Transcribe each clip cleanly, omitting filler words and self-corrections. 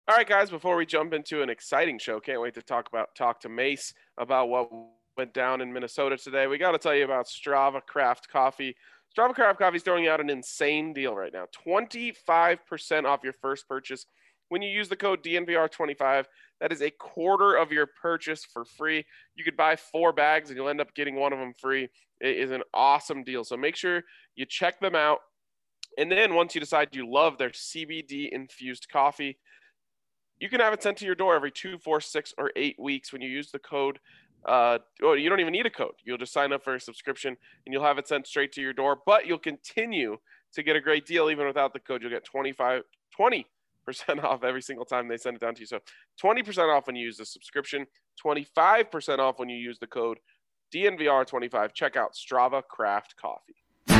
All right, guys, before we jump into an exciting show, can't wait to talk to Mace about what went down in Minnesota today. We got to tell you about Strava Craft Coffee. Strava Craft Coffee is throwing out an insane deal right now. 25% off your first purchase when you use the code DNVR25. That is a quarter of your purchase for free. You could buy 4 bags and you'll end up getting one of them free. It is an awesome deal. So make sure you check them out. And then once you decide you love their CBD infused coffee, you can have it sent to your door every 2, 4, 6, or 8 weeks when you use the code. You don't even need a code. You'll just sign up for a subscription and you'll have it sent straight to your door. But you'll continue to get a great deal even without the code. You'll get 20% off every single time they send it down to you. So 20% off when you use the subscription, 25% off when you use the code DNVR25. Check out Strava Craft Coffee.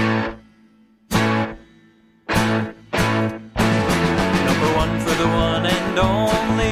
Number one for the one and only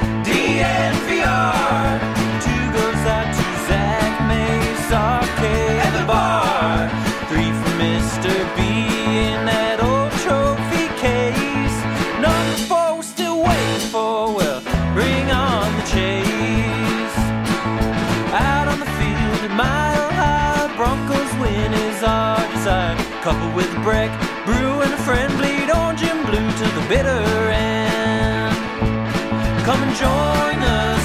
DNVR. 2 goes out to Zach Mace, Arcade, and the bar. 3 for Mr. B in that old trophy case. Number 4 we're still waiting for, well, bring on the chase. Out on the field at Mile High, Broncos win is our desire. Coupled with Breck, Brew, and a friend, bleed orange and blue to the bitter end. Come and join us,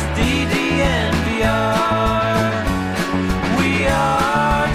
DNVR. We are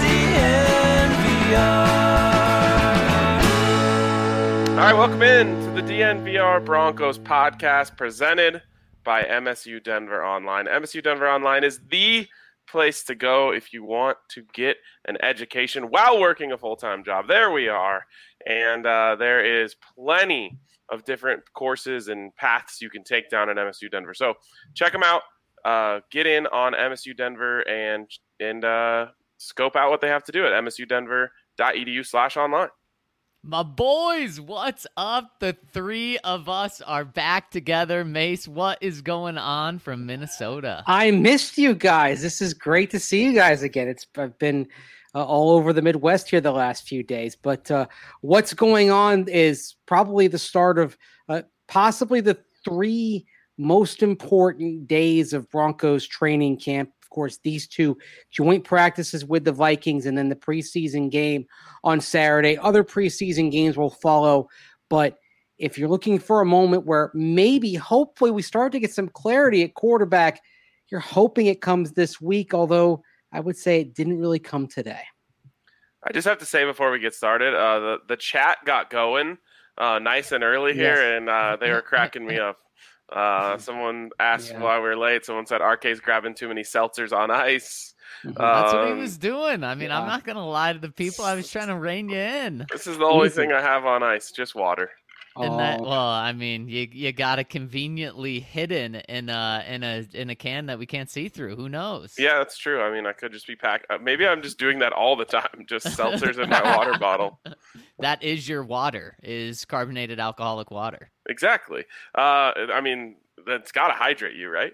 DNVR. All right, welcome in to the DNVR Broncos podcast presented by MSU Denver Online. MSU Denver Online is the place to go if you want to get an education while working a full-time job. There we are. And there is plenty of different courses and paths you can take down at MSU Denver. So check them out. Get in on MSU Denver and scope out what they have to do at msudenver.edu/online. My boys, what's up? The 3 of us are back together. Mace, what is going on from Minnesota? I missed you guys. This is great to see you guys again. I've been all over the Midwest here the last few days. But what's going on is probably the start of possibly the 3 most important days of Broncos training camp. Of course, these 2 joint practices with the Vikings and then the preseason game on Saturday. Other preseason games will follow. But if you're looking for a moment where maybe, hopefully, we start to get some clarity at quarterback, you're hoping it comes this week, although I would say it didn't really come today. I just have to say before we get started, the chat got going nice and early here, and they were cracking me up. Someone asked why we were late. Someone said RK's grabbing too many seltzers on ice. That's what he was doing. I mean, I'm not going to lie to the people. I was trying to rein you in. This is the only thing I have on ice, just water. And that, well, I mean, you got it conveniently hidden in a can that we can't see through. Who knows? Yeah, that's true. I mean, I could just be packed. Maybe I'm just doing that all the time. Just seltzers in my water bottle. That is your water, is carbonated alcoholic water. Exactly. I mean, that's got to hydrate you, right?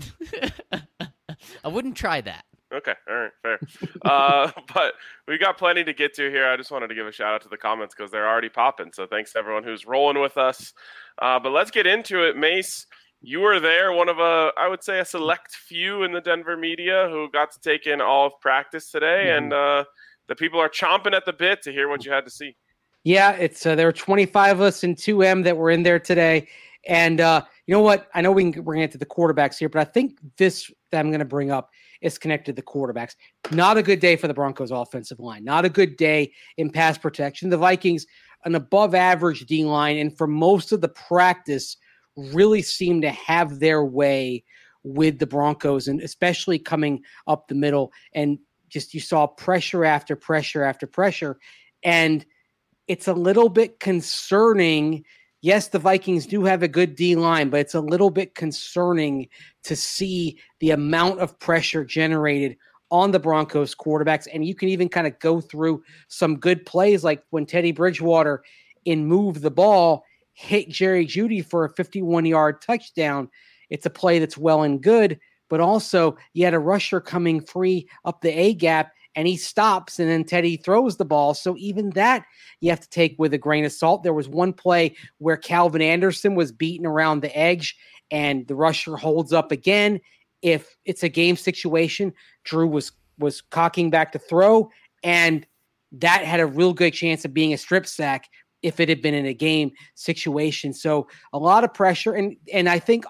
I wouldn't try that. Okay. All right. Fair. But we got plenty to get to here. I just wanted to give a shout out to the comments because they're already popping. So thanks to everyone who's rolling with us. But let's get into it. Mace, you were there, one of I would say a select few in the Denver media who got to take in all of practice today. And the people are chomping at the bit to hear what you had to see. Yeah, it's there were 25 of us in 2M that were in there today. And you know what? I know we're going to get to the quarterbacks here, but I think this that I'm going to bring up is connected to the quarterbacks. Not a good day for the Broncos offensive line. Not a good day in pass protection. The Vikings, an above average D line, and for most of the practice, really seem to have their way with the Broncos, and especially coming up the middle. And just you saw pressure after pressure after pressure. And it's a little bit concerning. Yes, the Vikings do have a good D-line, but it's a little bit concerning to see the amount of pressure generated on the Broncos quarterbacks. And you can even kind of go through some good plays, like when Teddy Bridgewater in Move the Ball hit Jerry Jeudy for a 51-yard touchdown. It's a play that's well and good, but also you had a rusher coming free up the A-gap, and he stops, and then Teddy throws the ball. So even that you have to take with a grain of salt. There was one play where Calvin Anderson was beaten around the edge, and the rusher holds up again. If it's a game situation, Drew was cocking back to throw, and that had a real good chance of being a strip sack if it had been in a game situation. So a lot of pressure. And I think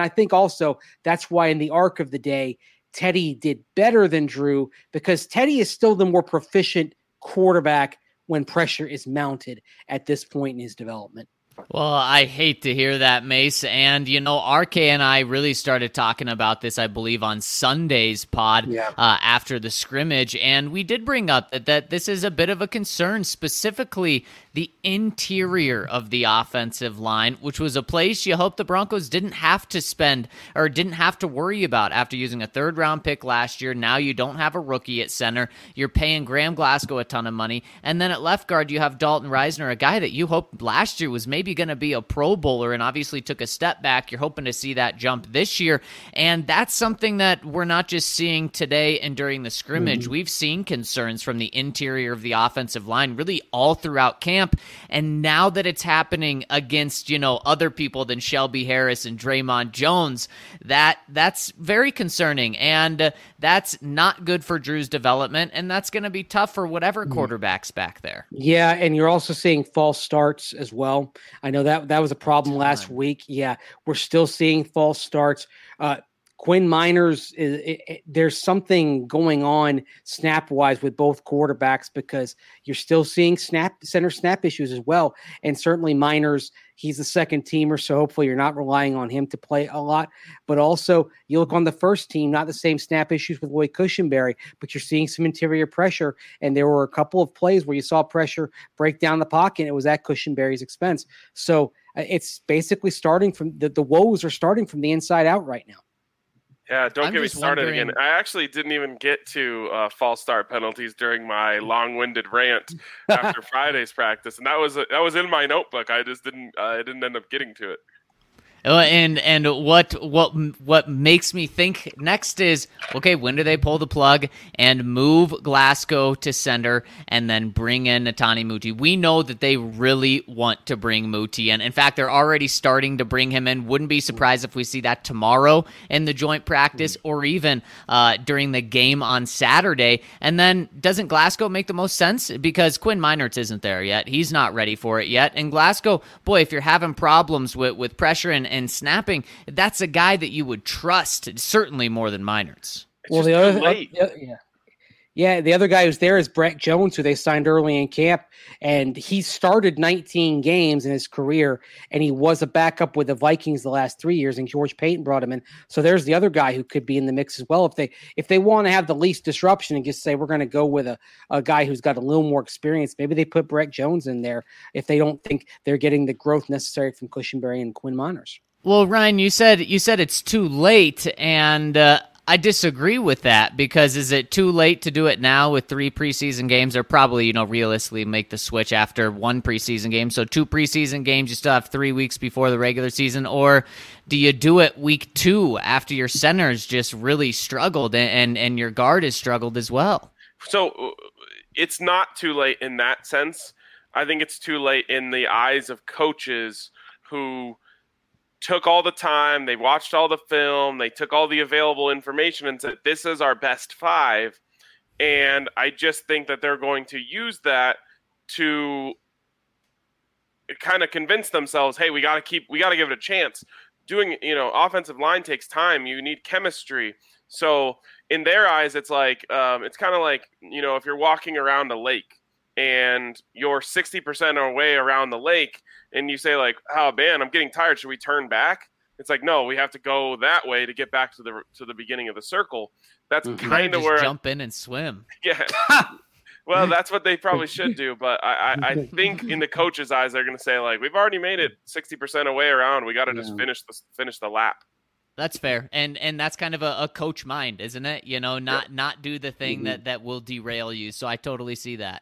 also that's why in the arc of the day, Teddy did better than Drew, because Teddy is still the more proficient quarterback when pressure is mounted at this point in his development. Well, I hate to hear that, Mace. And, RK and I really started talking about this, I believe, on Sunday's pod after the scrimmage. And we did bring up that this is a bit of a concern, specifically the interior of the offensive line, which was a place you hope the Broncos didn't have to spend or didn't have to worry about after using a third-round pick last year. Now you don't have a rookie at center. You're paying Graham Glasgow a ton of money. And then at left guard, you have Dalton Reisner, a guy that you hoped last year was maybe going to be a Pro Bowler and obviously took a step back. You're hoping to see that jump this year. And that's something that we're not just seeing today and during the scrimmage. We've seen concerns from the interior of the offensive line really all throughout camp. And now that it's happening against, other people than Shelby Harris and Draymond Jones, that's very concerning. And that's not good for Drew's development. And that's going to be tough for whatever quarterback's back there. Yeah. And you're also seeing false starts as well. I know that was a problem last week. Yeah. We're still seeing false starts. Quinn Miners, there's something going on snap-wise with both quarterbacks, because you're still seeing center snap issues as well. And certainly Miners, he's the second teamer, so hopefully you're not relying on him to play a lot. But also, you look on the first team, not the same snap issues with Lloyd Cushenberry, but you're seeing some interior pressure. And there were a couple of plays where you saw pressure break down the pocket, and it was at Cushenberry's expense. So it's basically starting from the woes are starting from the inside out right now. Yeah, don't get me started again. I actually didn't even get to false start penalties during my long-winded rant after Friday's practice, and that was in my notebook. I just didn't end up getting to it. And what makes me think next is, okay, when do they pull the plug and move Glasgow to center and then bring in Netane Muti? We know that they really want to bring Muti in. In fact, they're already starting to bring him in. Wouldn't be surprised if we see that tomorrow in the joint practice or even during the game on Saturday. And then doesn't Glasgow make the most sense? Because Quinn Meinerz isn't there yet. He's not ready for it yet. And Glasgow, boy, if you're having problems with pressure and snapping, that's a guy that you would trust certainly more than Meinerz. Well, the other guy who's there is Brett Jones, who they signed early in camp, and he started 19 games in his career, and he was a backup with the Vikings the last 3 years, and George Payton brought him in. So there's the other guy who could be in the mix as well if they want to have the least disruption and just say we're going to go with a guy who's got a little more experience. Maybe they put Brett Jones in there if they don't think they're getting the growth necessary from Cushenberry and Quinn Meinerz. Well, Ryan, you said it's too late, and I disagree with that, because is it too late to do it now with 3 preseason games, or probably, realistically make the switch after 1 preseason game? So 2 preseason games, you still have 3 weeks before the regular season, or do you do it week 2 after your centers just really struggled and your guard has struggled as well? So it's not too late in that sense. I think it's too late in the eyes of coaches who took all the time, they watched all the film, they took all the available information and said, this is our best 5. And I just think that they're going to use that to kind of convince themselves, hey, we got to give it a chance. Doing, offensive line takes time. You need chemistry. So in their eyes, it's like, it's kind of like, if you're walking around a lake and you're 60% away around the lake, and you say like, oh man, I'm getting tired, should we turn back? It's like, no, we have to go that way to get back to the beginning of the circle. That's kind of where jump in and swim. Yeah. Well, that's what they probably should do. But I think in the coach's eyes, they're going to say like, we've already made it 60% away around. We got to just finish the lap. That's fair. And that's kind of a coach mind, isn't it? Not do the thing that will derail you. So I totally see that.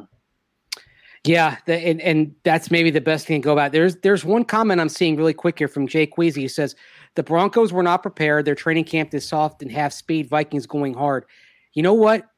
Yeah, and that's maybe the best thing to go about. There's one comment I'm seeing really quick here from Jay Queasy. He says, the Broncos were not prepared. Their training camp is soft and half speed. Vikings going hard. You know what?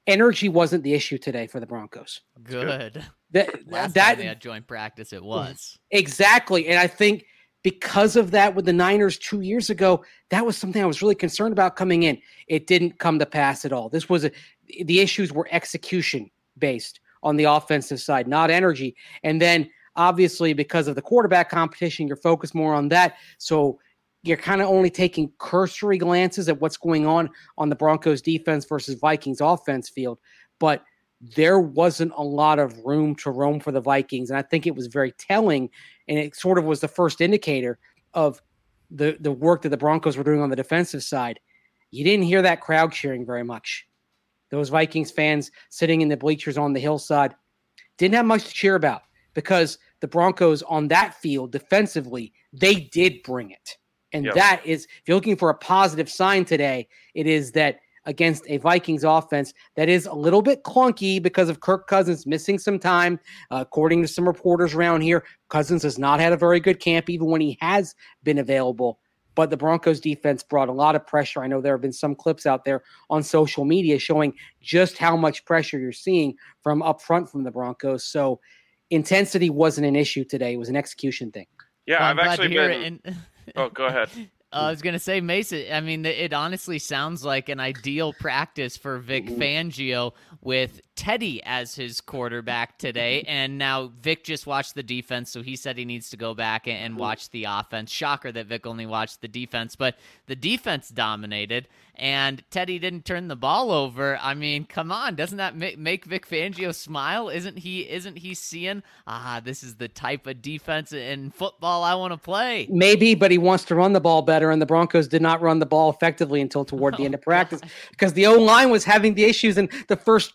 energy wasn't the issue today for the Broncos. Good. Last That time they had joint practice, it was. Exactly. And I think because of that with the Niners 2 years ago, that was something I was really concerned about coming in. It didn't come to pass at all. The issues were execution based on the offensive side, not energy. And then obviously because of the quarterback competition, you're focused more on that. So you're kind of only taking cursory glances at what's going on the Broncos defense versus Vikings offense field. But there wasn't a lot of room to roam for the Vikings. And I think it was very telling. And it sort of was the first indicator of the work that the Broncos were doing on the defensive side. You didn't hear that crowd cheering very much. Those Vikings fans sitting in the bleachers on the hillside didn't have much to cheer about because the Broncos on that field defensively, they did bring it. And that is, if you're looking for a positive sign today, it is that against a Vikings offense that is a little bit clunky because of Kirk Cousins missing some time. According to some reporters around here, Cousins has not had a very good camp, even when he has been available. But the Broncos defense brought a lot of pressure. I know there have been some clips out there on social media showing just how much pressure you're seeing from up front from the Broncos. So intensity wasn't an issue today. It was an execution thing. Yeah, well, I've actually been... Oh, go ahead. I was going to say, Mason, I mean, it honestly sounds like an ideal practice for Vic Fangio with Teddy as his quarterback today. And now Vic just watched the defense, so he said he needs to go back and watch the offense. Shocker that Vic only watched the defense, but the defense dominated, and Teddy didn't turn the ball over. I mean, come on, doesn't that make Vic Fangio smile? Isn't he seeing, this is the type of defense in football I want to play? Maybe, but he wants to run the ball better, and the Broncos did not run the ball effectively until toward the end of practice because the O-line was having the issues in the first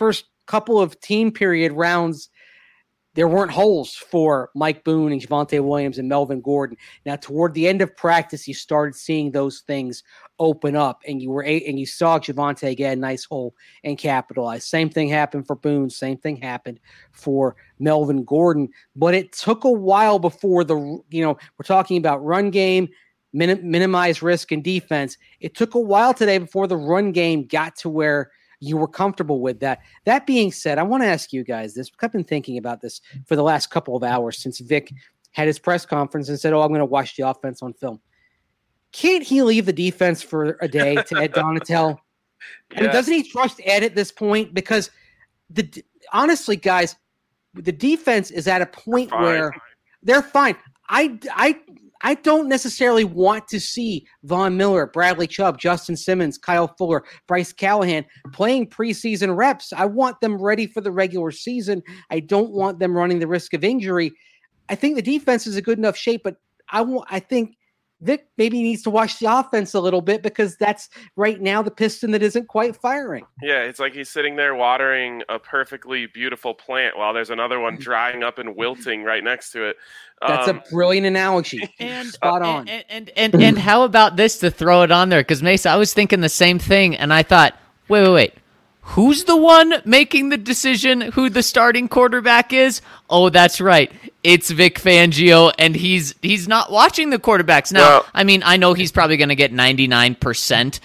couple of team period rounds. There weren't holes for Mike Boone and Javonte Williams and Melvin Gordon. Now, toward the end of practice, you started seeing those things open up, and you saw Javonte get a nice hole and capitalize. Same thing happened for Boone. Same thing happened for Melvin Gordon. But it took a while before we're talking about run game, minimize risk and defense. It took a while today before the run game got to where you were comfortable with that. That being said, I want to ask you guys this. I've been thinking about this for the last couple of hours since Vic had his press conference and said, I'm going to watch the offense on film. Can't he leave the defense for a day to Ed Donatel? I mean, doesn't he trust Ed at this point? Because honestly, guys, the defense is at a point where they're fine. I don't necessarily want to see Von Miller, Bradley Chubb, Justin Simmons, Kyle Fuller, Bryce Callahan playing preseason reps. I want them ready for the regular season. I don't want them running the risk of injury. I think the defense is in good enough shape, but I think Vic maybe needs to watch the offense a little bit because that's right now the piston that isn't quite firing. Yeah, it's like he's sitting there watering a perfectly beautiful plant while there's another one drying up and wilting right next to it. That's a brilliant analogy. And spot on. And how about this to throw it on there? Because Mesa, I was thinking the same thing, and I thought, wait. Who's the one making the decision who the starting quarterback is? Oh, that's right. It's Vic Fangio, and he's not watching the quarterbacks. Now, I mean, I know he's probably going to get 99%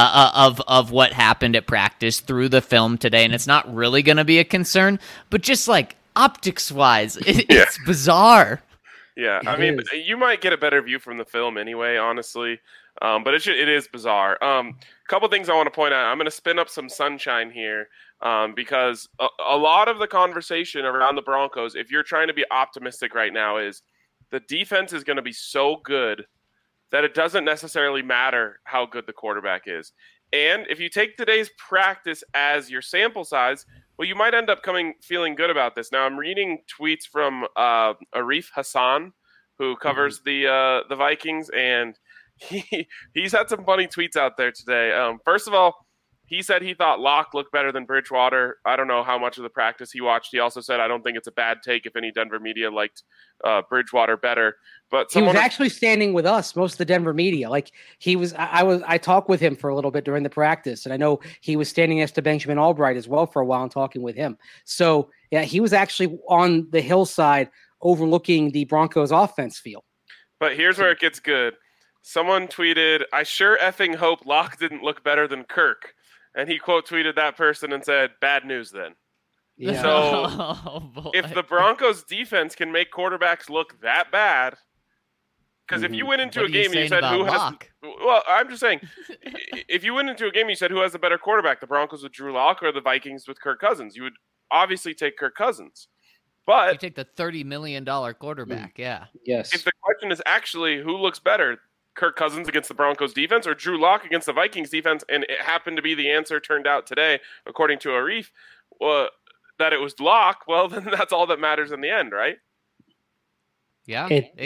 of what happened at practice through the film today, and it's not really going to be a concern. But just like optics-wise, it's bizarre. Yeah, I mean, you might get a better view from the film anyway, honestly. But it is bizarre. Couple things I want to point out. I'm going to spin up some sunshine here because a lot of the conversation around the Broncos, if you're trying to be optimistic right now, is the defense is going to be so good that it doesn't necessarily matter how good the quarterback is. And if you take today's practice as your sample size, well, you might end up feeling good about this. Now, I'm reading tweets from Arif Hassan, who covers the Vikings, and he's had some funny tweets out there today. First of all, he said he thought Locke looked better than Bridgewater. I don't know how much of the practice he watched. He also said, I don't think it's a bad take if any Denver media liked Bridgewater better. But he was actually standing with us, most of the Denver media. Like I talked with him for a little bit during the practice, and I know he was standing next to Benjamin Albright as well for a while and talking with him. So yeah, he was actually on the hillside overlooking the Broncos offense field. But here's where it gets good. Someone tweeted, I sure effing hope Locke didn't look better than Kirk. and he quote tweeted that person and said, "Bad news then." Yeah. So if the Broncos defense can make quarterbacks look that bad, because if you went into a game and you said who has, well, I'm just saying, if you went into a game and you said who has the better quarterback, the Broncos with Drew Lock or the Vikings with Kirk Cousins, you would obviously take Kirk Cousins. But you take the $30 million quarterback, yeah. Yes. If the question is actually who looks better, Kirk Cousins against the Broncos defense or Drew Lock against the Vikings defense, and it happened to be the answer turned out today, according to Arif, that it was Lock, well, then that's all that matters in the end, right? Yeah,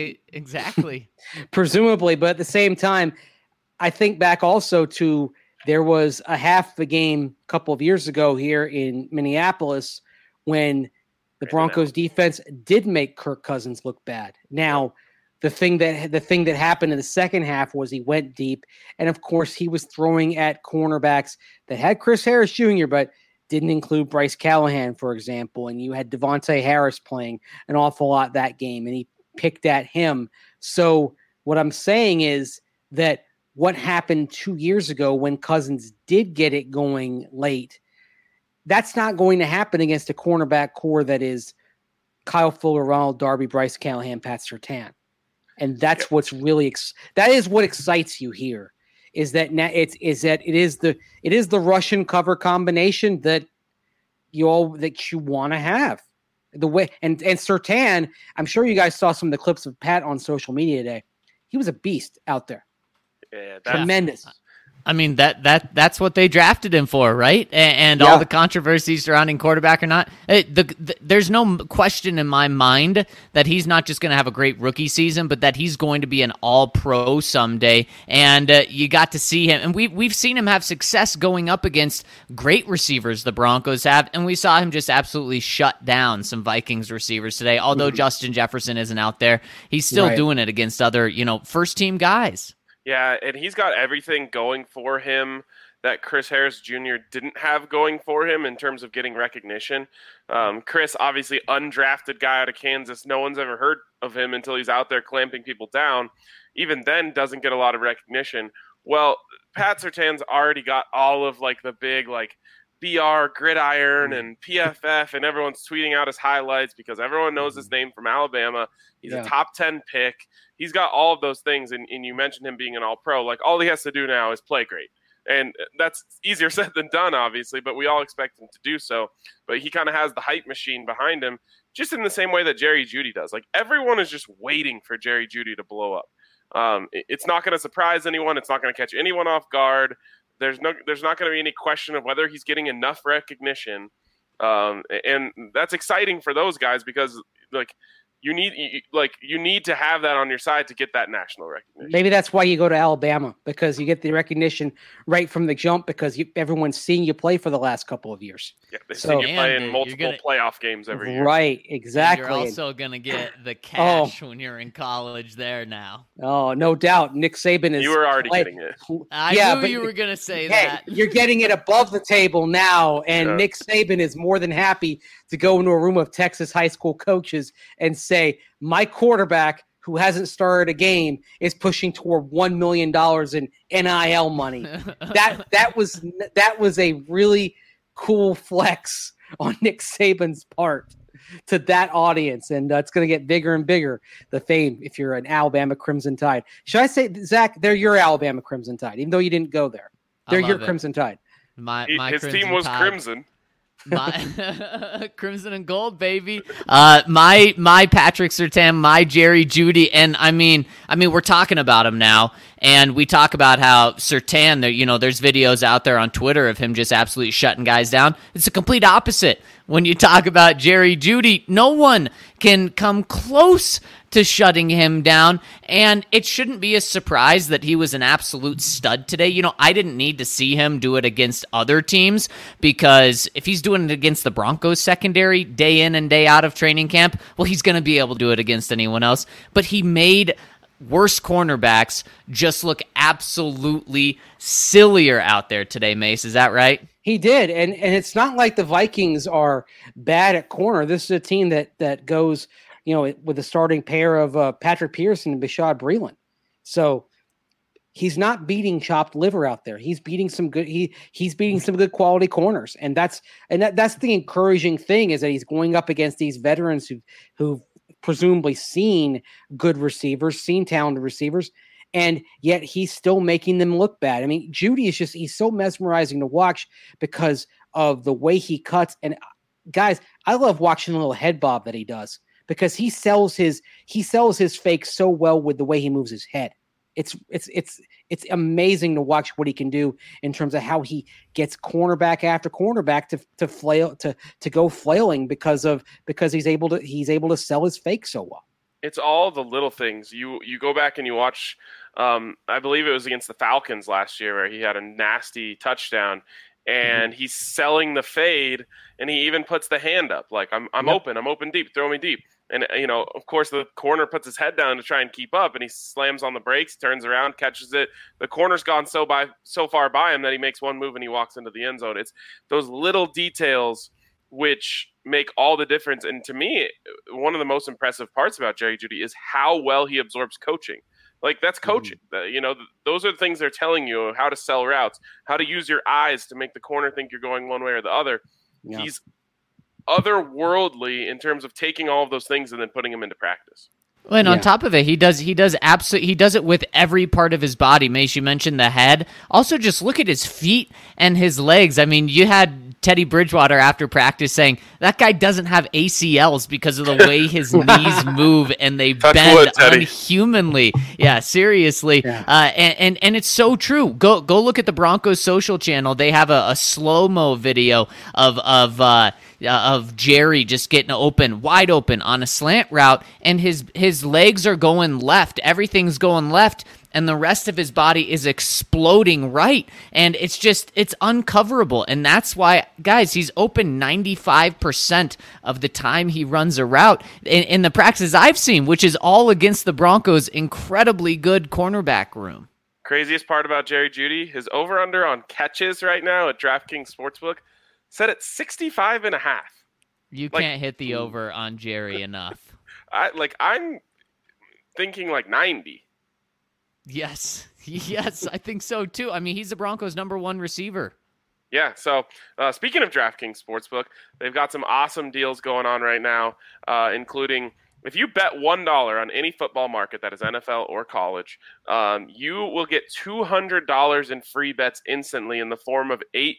exactly. Presumably, but at the same time, I think back also to there was a half the game a couple of years ago here in Minneapolis when the Broncos defense did make Kirk Cousins look bad. Now, the thing that happened in the second half was he went deep, and of course he was throwing at cornerbacks that had Chris Harris Jr., but didn't include Bryce Callahan, for example, and you had Devontae Harris playing an awful lot that game, and he picked at him. So what I'm saying is that what happened 2 years ago when Cousins did get it going late, that's not going to happen against a cornerback core that is Kyle Fuller, Ronald Darby, Bryce Callahan, Pat Surtain. And that's what's really that is what excites you here. Is that it is the Russian cover combination that you want to have. The way and Surtain, I'm sure you guys saw some of the clips of Pat on social media today. He was a beast out there. Yeah, tremendous. I mean, that's what they drafted him for, right? And all the controversy surrounding quarterback or not. There's no question in my mind that he's not just going to have a great rookie season, but that he's going to be an all-pro someday. And you got to see him. And we've seen him have success going up against great receivers the Broncos have. And we saw him just absolutely shut down some Vikings receivers today. Although Justin Jefferson isn't out there, he's still doing it against other, first-team guys. Yeah, and he's got everything going for him that Chris Harris Jr. didn't have going for him in terms of getting recognition. Chris, obviously undrafted guy out of Kansas. No one's ever heard of him until he's out there clamping people down. Even then, doesn't get a lot of recognition. Well, Pat Surtain's already got all of the big BR, Gridiron, and PFF, and everyone's tweeting out his highlights because everyone knows his name from Alabama. He's a top 10 pick. He's got all of those things, and you mentioned him being an all-pro. All he has to do now is play great. And that's easier said than done, obviously, but we all expect him to do so. But he kind of has the hype machine behind him, just in the same way that Jerry Jeudy does. Everyone is just waiting for Jerry Jeudy to blow up. It's not going to surprise anyone. It's not going to catch anyone off guard. There's not going to be any question of whether he's getting enough recognition. And that's exciting for those guys because, you need to have that on your side to get that national recognition. Maybe that's why you go to Alabama, because you get the recognition right from the jump because everyone's seeing you play for the last couple of years. Yeah, they've seen you play in multiple playoff games every year. Right, exactly. And you're also going to get the cash when you're in college there now. Oh, no doubt. Nick Saban is... You were already getting it. I knew you were going to say that. You're getting it above the table now, and Nick Saban is more than happy to go into a room of Texas high school coaches and say, my quarterback who hasn't started a game is pushing toward $1 million in NIL money. That was a really cool flex on Nick Saban's part to that audience, and it's going to get bigger and bigger, the fame, if you're an Alabama Crimson Tide. Should I say, Zach, they're your Alabama Crimson Tide, even though you didn't go there. They're your Crimson Tide. His team was Tide. Crimson. My crimson and gold, baby. My Patrick Surtain, my Jerry Jeudy, and I mean, we're talking about him now, and we talk about how Surtain, there's videos out there on Twitter of him just absolutely shutting guys down. It's the complete opposite. When you talk about Jerry Jeudy, no one can come close to shutting him down, and it shouldn't be a surprise that he was an absolute stud today. I didn't need to see him do it against other teams, because if he's doing it against the Broncos secondary day in and day out of training camp, well, he's going to be able to do it against anyone else. But he made worse cornerbacks just look absolutely sillier out there today, Mace. Is that right? He did, and it's not like the Vikings are bad at corner. This is a team that goes, with a starting pair of Patrick Peterson and Bashaud Breeland. So he's not beating chopped liver out there. He's beating some good. He's beating some good quality corners, and that's the encouraging thing, is that he's going up against these veterans who've presumably seen good receivers, seen talented receivers, and yet he's still making them look bad. I mean, Jeudy is he's so mesmerizing to watch because of the way he cuts. And guys, I love watching the little head bob that he does, because he sells his fake so well with the way he moves his head. It's amazing to watch what he can do in terms of how he gets cornerback after cornerback to flail to go flailing because he's able to sell his fake so well. It's all the little things. You go back and you watch. I believe it was against the Falcons last year where he had a nasty touchdown, and he's selling the fade, and he even puts the hand up like I'm open deep, throw me deep. And, of course, the corner puts his head down to try and keep up, and he slams on the brakes, turns around, catches it. The corner's gone so far by him that he makes one move and he walks into the end zone. It's those little details which make all the difference. And to me, one of the most impressive parts about Jerry Jeudy is how well he absorbs coaching. Like, that's coaching. Those are the things they're telling you, how to sell routes, how to use your eyes to make the corner think you're going one way or the other. Yeah. He's otherworldly in terms of taking all of those things and then putting them into practice. And on top of it, he does it with every part of his body. Mace, you mentioned the head. Also, just look at his feet and his legs. I mean, you had Teddy Bridgewater after practice saying that guy doesn't have ACLs because of the way his knees move and they bend unhumanly. Yeah, seriously. Yeah. And it's so true. Go look at the Broncos social channel. They have a slow-mo video of Jerry just getting wide open on a slant route, and his legs are going left. Everything's going left, and the rest of his body is exploding right. And it's uncoverable. And that's why, guys, he's open 95% of the time he runs a route in the practices I've seen, which is all against the Broncos' incredibly good cornerback room. Craziest part about Jerry Jeudy, his over-under on catches right now at DraftKings Sportsbook set at 65.5. You can't hit the over on Jerry enough. I'm thinking 90. Yes, I think so too. I mean, he's the Broncos' number one receiver. Yeah, so speaking of DraftKings Sportsbook, they've got some awesome deals going on right now, including if you bet $1 on any football market that is NFL or college, you will get $200 in free bets instantly in the form of 8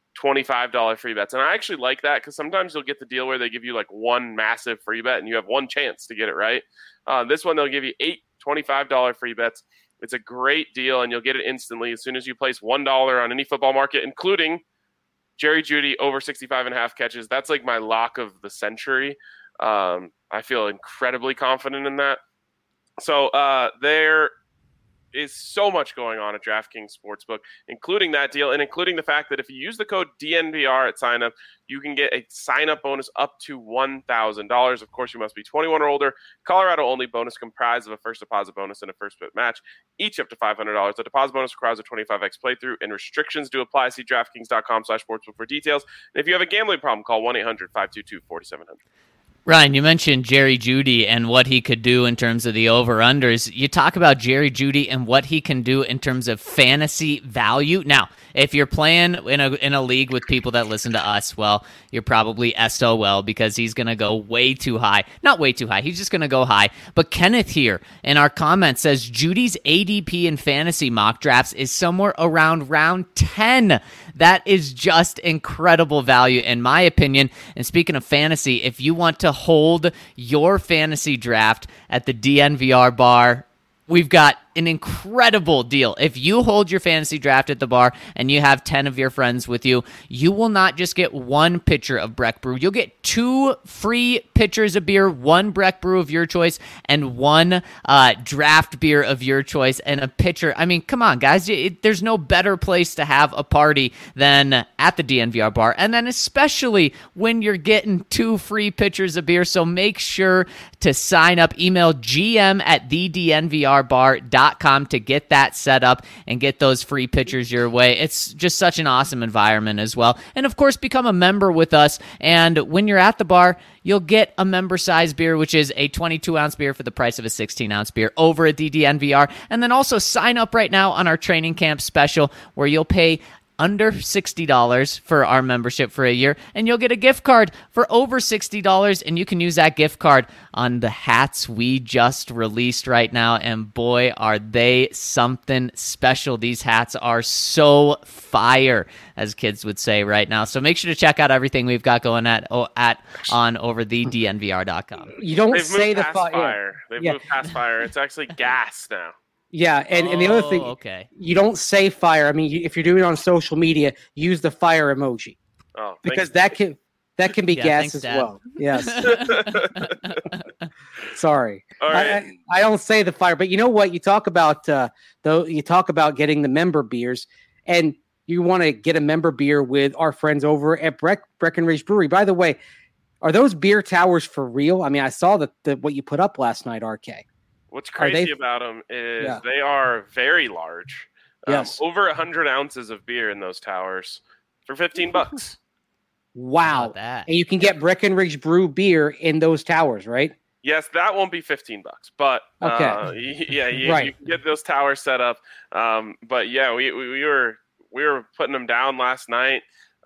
$25 free bets. And I actually like that because sometimes you'll get the deal where they give you one massive free bet and you have one chance to get it right. This one, they'll give you 8 $25 free bets. It's a great deal, and you'll get it instantly as soon as you place $1 on any football market, including Jerry Jeudy over 65.5 catches. That's my lock of the century. I feel incredibly confident in that. So there is so much going on at DraftKings Sportsbook, including that deal and including the fact that if you use the code DNVR at sign-up, you can get a sign-up bonus up to $1,000. Of course, you must be 21 or older. Colorado-only bonus comprised of a first deposit bonus and a first bet match, each up to $500. The deposit bonus requires a 25x playthrough, and restrictions do apply. See DraftKings.com/sportsbook for details. And if you have a gambling problem, call 1-800-522-4700. Ryan, you mentioned Jerry Jeudy and what he could do in terms of the over-unders. You talk about Jerry Jeudy and what he can do in terms of fantasy value. Now, if you're playing in a league with people that listen to us, well, you're probably SOL because he's going to go way too high. Not way too high. He's just going to go high. But Kenneth here in our comment says Judy's ADP in fantasy mock drafts is somewhere around round 10. That is just incredible value in my opinion. And speaking of fantasy, if you want to hold your fantasy draft at the DNVR bar, we've got an incredible deal. If you hold your fantasy draft at the bar and you have 10 of your friends with you, you will not just get one pitcher of Breck Brew. You'll get 2 free pitchers of beer, 1 Breck Brew of your choice, and 1 draft beer of your choice, and a pitcher. I mean, come on, guys. There's no better place to have a party than at the DNVR bar, and then especially when you're getting 2 free pitchers of beer. So make sure to sign up. Email gm@thednvrbar.com DNVR.com to get that set up and get those free pitchers your way. It's just such an awesome environment as well. And of course, become a member with us. And when you're at the bar, you'll get a member size beer, which is a 22-ounce beer for the price of a 16-ounce beer over at the DNVR. And then also sign up right now on our training camp special where you'll pay under $60 for our membership for a year, and you'll get a gift card for over $60, and you can use that gift card on the hats we just released right now, and boy, are they something special. These hats are so fire, as kids would say right now. So make sure to check out everything we've got going on over the DNVR.com. You don't They've say moved the past fire. They've moved past fire. It's actually gas now. Yeah, and the other thing, you don't say fire. I mean, if you're doing it on social media, use the fire emoji. Oh, because that can be gas as Dad. well. Yes. Sorry, All right. I don't say the fire, but you know what? You talk about you talk about getting the member beers, and you want to get a member beer with our friends over at Breckenridge Brewery. By the way, are those beer towers for real? I mean, I saw what you put up last night, RK. What's crazy about them is they are very large. Yes. Over 100 ounces of beer in those towers for $15. Wow. And you can get Breckenridge Brew beer in those towers, right? Yes, that won't be $15, but you can get those towers set up. But yeah, we were putting them down last night.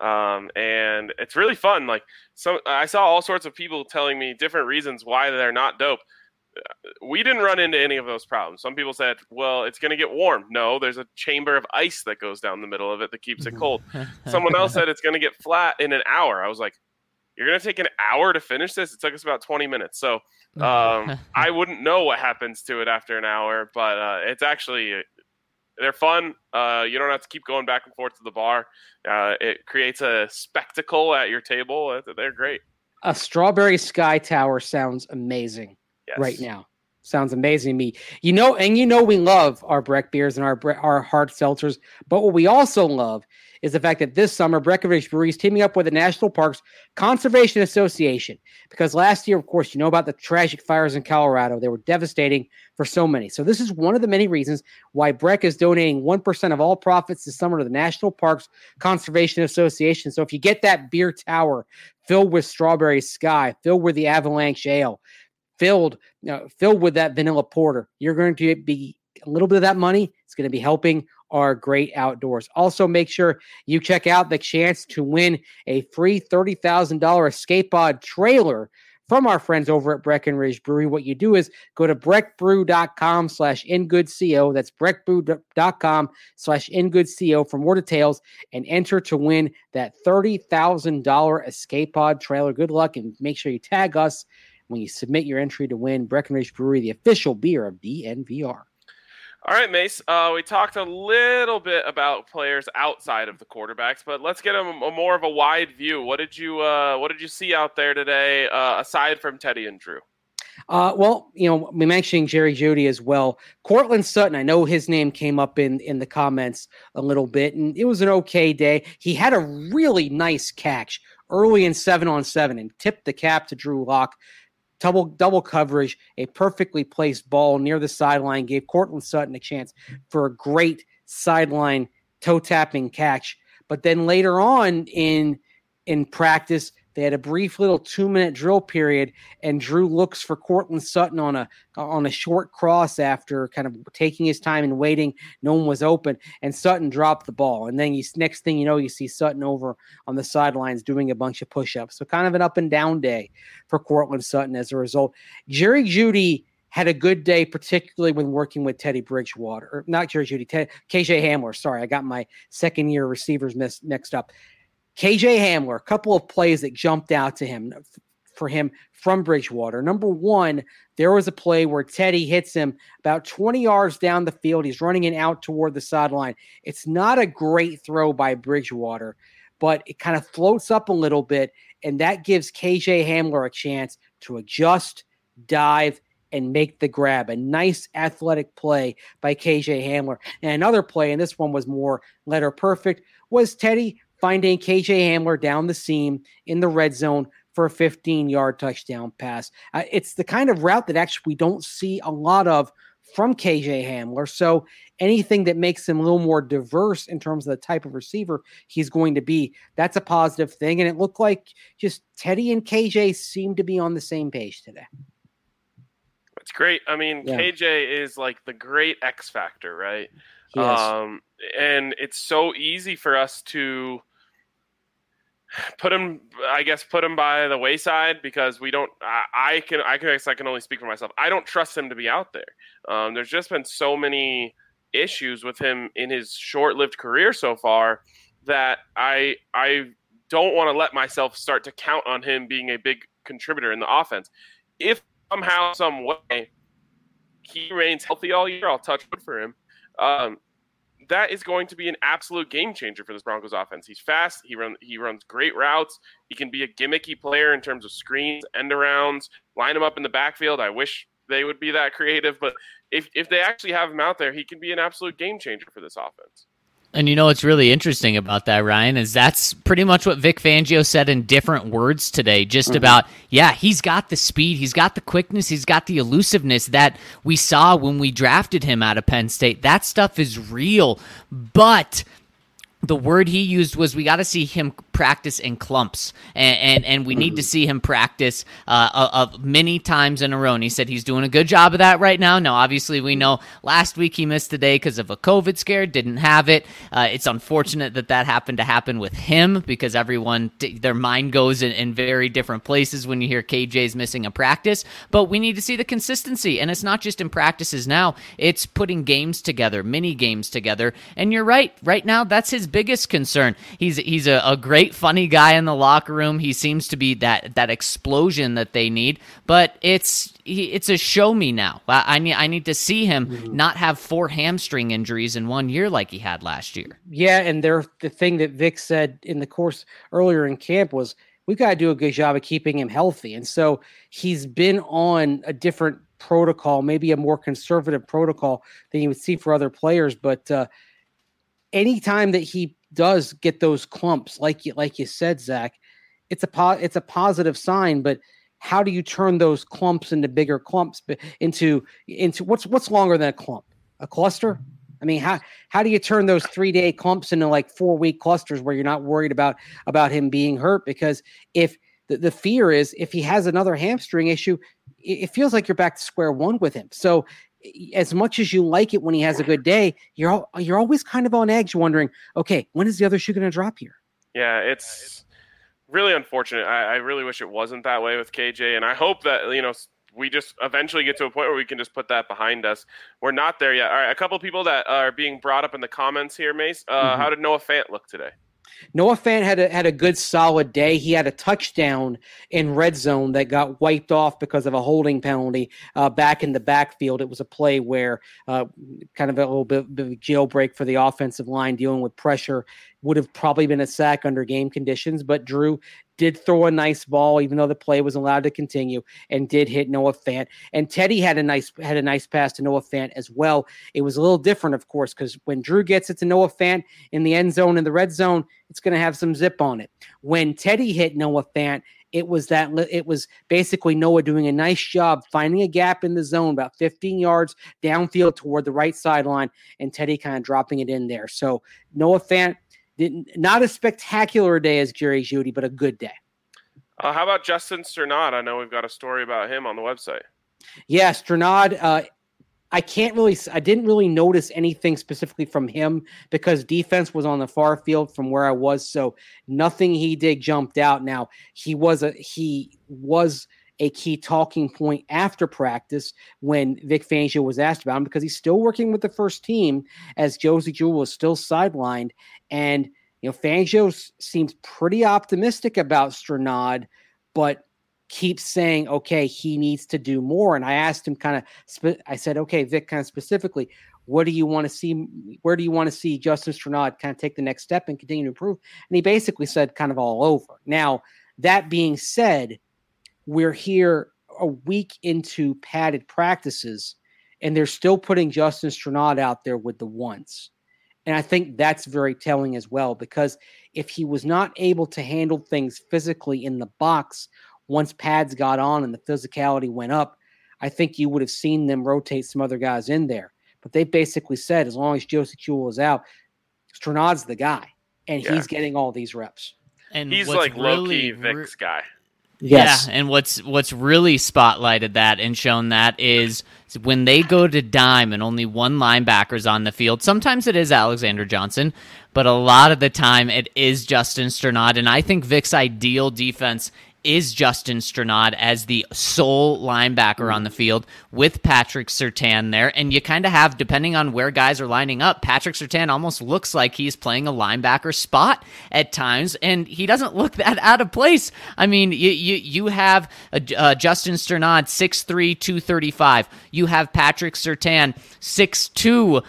And it's really fun. Like I saw all sorts of people telling me different reasons why they're not dope. We didn't run into any of those problems. Some people said, well, it's going to get warm. No, there's a chamber of ice that goes down the middle of it that keeps it cold. Someone else said it's going to get flat in an hour. I was like, you're going to take an hour to finish this? It took us about 20 minutes. So I wouldn't know what happens to it after an hour, but it's actually, they're fun. You don't have to keep going back and forth to the bar. It creates a spectacle at your table. They're great. A Strawberry Sky Tower sounds amazing. Yes. Right now. Sounds amazing to me. You know we love our Breck beers and our hard seltzers, but what we also love is the fact that this summer Breckenridge Brewery is teaming up with the National Parks Conservation Association, because last year, of course, you know about the tragic fires in Colorado. They were devastating for so many. So this is one of the many reasons why Breck is donating 1% of all profits this summer to the National Parks Conservation Association. So if you get that beer tower filled with Strawberry Sky, filled with the Avalanche Ale, filled with that vanilla porter, you're going to be a little bit of that money. It's going to be helping our great outdoors. Also, make sure you check out the chance to win a free $30,000 escape pod trailer from our friends over at Breckenridge Brewery. What you do is go to breckbrew.com/ingoodco. That's breckbrew.com/ingoodco for more details and enter to win that $30,000 escape pod trailer. Good luck, and make sure you tag us when you submit your entry to win Breckenridge Brewery, the official beer of DNVR. All right, Mace. We talked a little bit about players outside of the quarterbacks, but let's get a more of a wide view. What did you see out there today, aside from Teddy and Drew? Well, we mentioned Jerry Jeudy as well. Cortland Sutton, I know his name came up in the comments a little bit, and it was an okay day. He had a really nice catch early in 7-on-7 and tipped the cap to Drew Lock. Double coverage, a perfectly placed ball near the sideline gave Cortland Sutton a chance for a great sideline toe-tapping catch. But then later on in practice, they had a brief little 2-minute drill period, and Drew looks for Cortland Sutton on a short cross after kind of taking his time and waiting. No one was open, and Sutton dropped the ball. And then next thing you know, you see Sutton over on the sidelines doing a bunch of push-ups. So kind of an up-and-down day for Cortland Sutton as a result. Jerry Jeudy had a good day, particularly when working with Teddy Bridgewater. Or not Jerry Jeudy, KJ Hamler. Sorry, I got my second-year receivers mixed up. KJ Hamler, a couple of plays that jumped out to him from Bridgewater. Number one, there was a play where Teddy hits him about 20 yards down the field. He's running in out toward the sideline. It's not a great throw by Bridgewater, but it kind of floats up a little bit, and that gives KJ Hamler a chance to adjust, dive, and make the grab. A nice athletic play by KJ Hamler. And another play, and this one was more letter perfect, was Teddy finding KJ Hamler down the seam in the red zone for a 15-yard touchdown pass. It's the kind of route that actually we don't see a lot of from KJ Hamler. So anything that makes him a little more diverse in terms of the type of receiver he's going to be, that's a positive thing. And it looked like just Teddy and KJ seem to be on the same page today. That's great. I mean, KJ is like the great X factor, right? And it's so easy for us to put him by the wayside because we don't. I can only speak for myself. I don't trust him to be out there. There's just been so many issues with him in his short-lived career so far that I don't want to let myself start to count on him being a big contributor in the offense. If somehow, some way, he remains healthy all year, I'll touch wood for him. That is going to be an absolute game changer for this Broncos offense. He's fast. He runs great routes. He can be a gimmicky player in terms of screens, end arounds, line him up in the backfield. I wish they would be that creative, but if they actually have him out there, he can be an absolute game changer for this offense. And you know what's really interesting about that, Ryan, is that's pretty much what Vic Fangio said in different words today, just about, he's got the speed, he's got the quickness, he's got the elusiveness that we saw when we drafted him out of Penn State. That stuff is real, but the word he used was we got to see him practice in clumps, and we need to see him practice many times in a row. And he said he's doing a good job of that right now. Now, obviously, we know last week he missed the day because of a COVID scare, didn't have it. It's unfortunate that happened to happen with him because everyone, their mind goes in very different places when you hear KJ's missing a practice. But we need to see the consistency, and it's not just in practices now. It's putting games together, mini games together. And you're right. Right now, that's his biggest concern. He's a great, funny guy in the locker room. He seems to be that explosion that they need, but it's a show me now. I need to see him not have 4 hamstring injuries in 1 year like he had last year. Yeah, and the thing that Vic said in the course earlier in camp was we've got to do a good job of keeping him healthy. And so he's been on a different protocol, maybe a more conservative protocol than you would see for other players, but anytime that he does get those clumps, like you said, Zach, it's a positive sign. But how do you turn those clumps into bigger clumps? Into what's longer than a clump? A cluster? I mean, how do you turn those 3-day clumps into like 4-week clusters where you're not worried about him being hurt? Because if the fear is if he has another hamstring issue, it feels like you're back to square one with him. So as much as you like it when he has a good day, you're always kind of on edge wondering, okay, when is the other shoe going to drop here? Yeah, it's really unfortunate. I really wish it wasn't that way with KJ, and I hope that, we just eventually get to a point where we can just put that behind us. We're not there yet. All right, a couple of people that are being brought up in the comments here, Mace. How did Noah Fant look today? Noah Fant had a good solid day. He had a touchdown in red zone that got wiped off because of a holding penalty back in the backfield. It was a play where kind of a little bit of a jailbreak for the offensive line dealing with pressure. Would have probably been a sack under game conditions, but Drew did throw a nice ball, even though the play was allowed to continue, and did hit Noah Fant. And Teddy had a nice pass to Noah Fant as well. It was a little different, of course, because when Drew gets it to Noah Fant in the end zone, in the red zone, it's going to have some zip on it. When Teddy hit Noah Fant, it was basically Noah doing a nice job finding a gap in the zone about 15 yards downfield toward the right sideline, and Teddy kind of dropping it in there. So Noah Fant, not a spectacular day as Jerry Jeudy, but a good day. How about Justin Strnad? I know we've got a story about him on the website. Yeah, Strnad. I didn't really notice anything specifically from him because defense was on the far field from where I was, so nothing he did jumped out. Now he was a key talking point after practice when Vic Fangio was asked about him because he's still working with the first team as Josey Jewell was still sidelined. And, Fangio seems pretty optimistic about Strnad, but keeps saying, okay, he needs to do more. And I asked him I said, okay, Vic, kind of specifically, what do you want to see? Where do you want to see Justin Strnad kind of take the next step and continue to improve? And he basically said kind of all over. Now, that being said, we're here a week into padded practices, and they're still putting Justin Strnad out there with the ones. And I think that's very telling as well, because if he was not able to handle things physically in the box once pads got on and the physicality went up, I think you would have seen them rotate some other guys in there. But they basically said, as long as Josie Jewell is out, Stranad's the guy, and he's getting all these reps. And he's like low-key Vic's guy. Yes. Yeah, and what's really spotlighted that and shown that is when they go to dime and only one linebacker's on the field. Sometimes it is Alexander Johnson, but a lot of the time it is Justin Strnad. And I think Vic's ideal defense is Justin Strnad as the sole linebacker on the field with Patrick Surtain there. And you kind of have, depending on where guys are lining up, Patrick Surtain almost looks like he's playing a linebacker spot at times, and he doesn't look that out of place. I mean, you have Justin Strnad, 6'3", 235. You have Patrick Surtain, 6'2",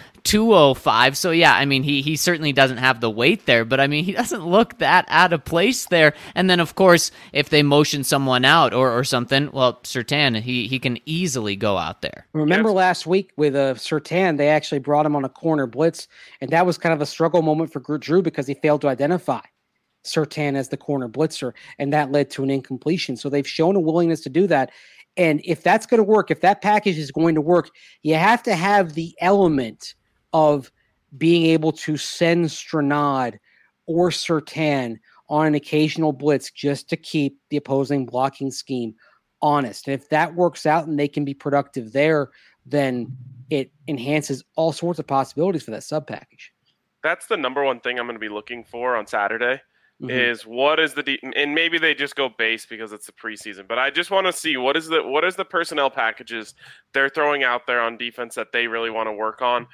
205. So yeah, I mean, he certainly doesn't have the weight there, but I mean, he doesn't look that out of place there. And then of course, if they motion someone out or something, well, Surtain, he can easily go out there. Remember last week with Surtain, they actually brought him on a corner blitz, and that was kind of a struggle moment for Drew because he failed to identify Surtain as the corner blitzer, and that led to an incompletion. So they've shown a willingness to do that. And if that's going to work, if that package is going to work, you have to have the element of being able to send Strnad or Surtain on an occasional blitz just to keep the opposing blocking scheme honest. And if that works out and they can be productive there, then it enhances all sorts of possibilities for that sub package. That's the number one thing I'm going to be looking for on Saturday. Is what is the and maybe they just go base because it's the preseason, but I just want to see what is the personnel packages they're throwing out there on defense that they really want to work on.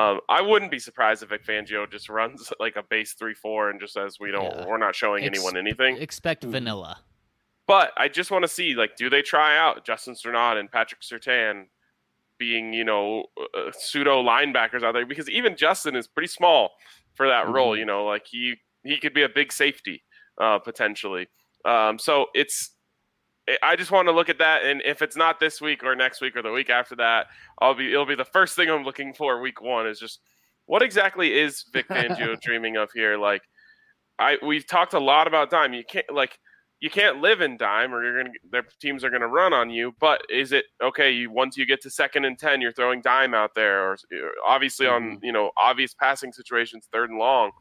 I wouldn't be surprised if Vic Fangio just runs like a base 3-4 and just says we're not showing anyone anything. Expect vanilla. But I just want to see, like, do they try out Justin Strnad and Patrick Surtain being, pseudo linebackers out there? Because even Justin is pretty small for that role, like he could be a big safety potentially. So I just want to look at that, and if it's not this week or next week or the week after that, it'll be the first thing I'm looking for week one is just what exactly is Vic Fangio dreaming of here? Like we've talked a lot about dime. You can't live in dime or their teams are gonna run on you. But is it okay? Once you get to 2nd and 10, you're throwing dime out there, or obviously on obvious passing situations, 3rd and long.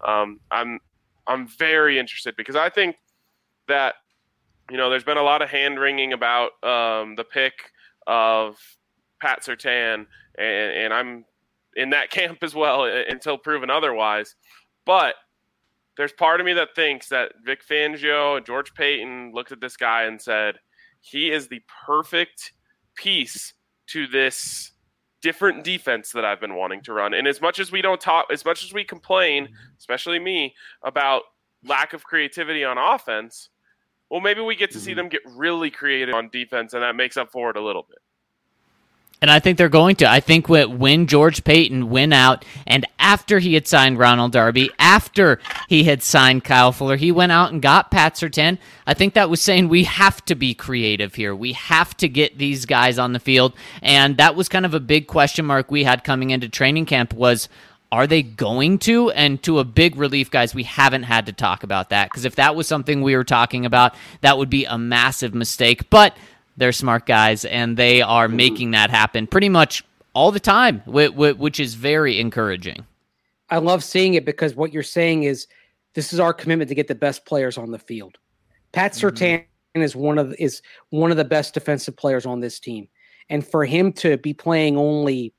I'm very interested because I think that there's been a lot of hand wringing about the pick of Pat Surtain, and I'm in that camp as well until proven otherwise. But there's part of me that thinks that Vic Fangio and George Paton looked at this guy and said, he is the perfect piece to this different defense that I've been wanting to run. And as much as we complain, especially me, about lack of creativity on offense, well, maybe we get to see them get really creative on defense, and that makes up for it a little bit. And I think they're going to. I think when George Paton went out, and after he had signed Ronald Darby, after he had signed Kyle Fuller, he went out and got Pat Surtain. I think that was saying we have to be creative here. We have to get these guys on the field. And that was kind of a big question mark we had coming into training camp was, are they going to? And to a big relief, guys, we haven't had to talk about that. Because if that was something we were talking about, that would be a massive mistake. But they're smart guys, and they are making that happen pretty much all the time, which is very encouraging. I love seeing it because what you're saying is this is our commitment to get the best players on the field. Pat Surtain is one of the best defensive players on this team. And for him to be playing only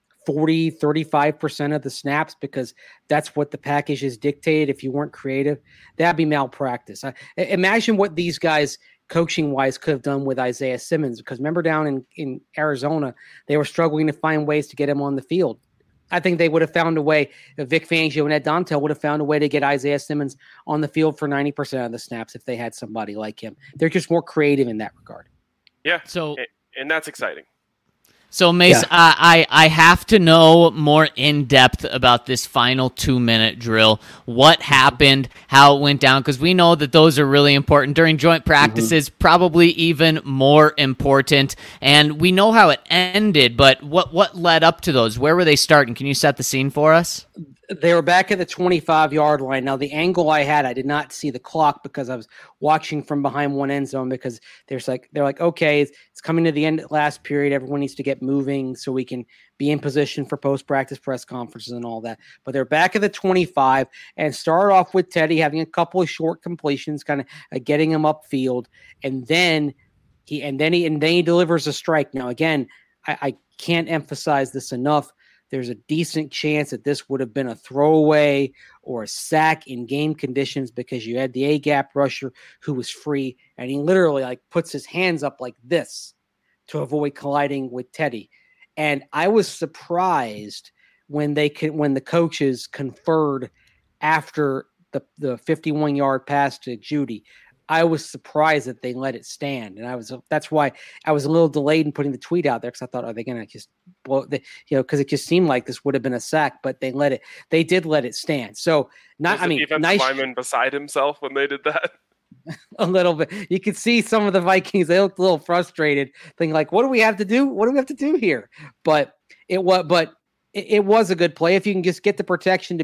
35% of the snaps because that's what the package is dictated if you weren't creative, that'd be malpractice. Imagine what these guys coaching-wise could have done with Isaiah Simmons, because remember down in Arizona, they were struggling to find ways to get him on the field. I think they would have found a way, Vic Fangio and Ed Dontel would have found a way to get Isaiah Simmons on the field for 90% of the snaps if they had somebody like him. They're just more creative in that regard. Yeah, and that's exciting. So, Mace, I have to know more in depth about this final 2-minute drill. What happened, how it went down, because we know that those are really important during joint practices, probably even more important. And we know how it ended, but what led up to those? Where were they starting? Can you set the scene for us? They were back at the 25-yard line. Now, the angle I had, I did not see the clock because I was watching from behind one end zone because they're like, okay, it's coming to the end of the last period. Everyone needs to get moving so we can be in position for post-practice press conferences and all that. But they're back at the 25 and start off with Teddy having a couple of short completions, kind of getting him upfield. And then he delivers a strike. Now, again, I can't emphasize this enough. There's a decent chance that this would have been a throwaway or a sack in game conditions because you had the A-gap rusher who was free, and he literally puts his hands up like this to avoid colliding with Teddy. And I was surprised when the coaches conferred after the 51-yard pass to Jeudy. I was surprised that they let it stand, and that's why I was a little delayed in putting the tweet out there because I thought, are they going to just blow because it just seemed like this would have been a sack, but they did let it stand. So defensive lineman beside himself when they did that. A little bit, you could see some of the Vikings. They looked a little frustrated, thinking like, "What do we have to do? What do we have to do here?" But it was a good play. If you can just get the protection to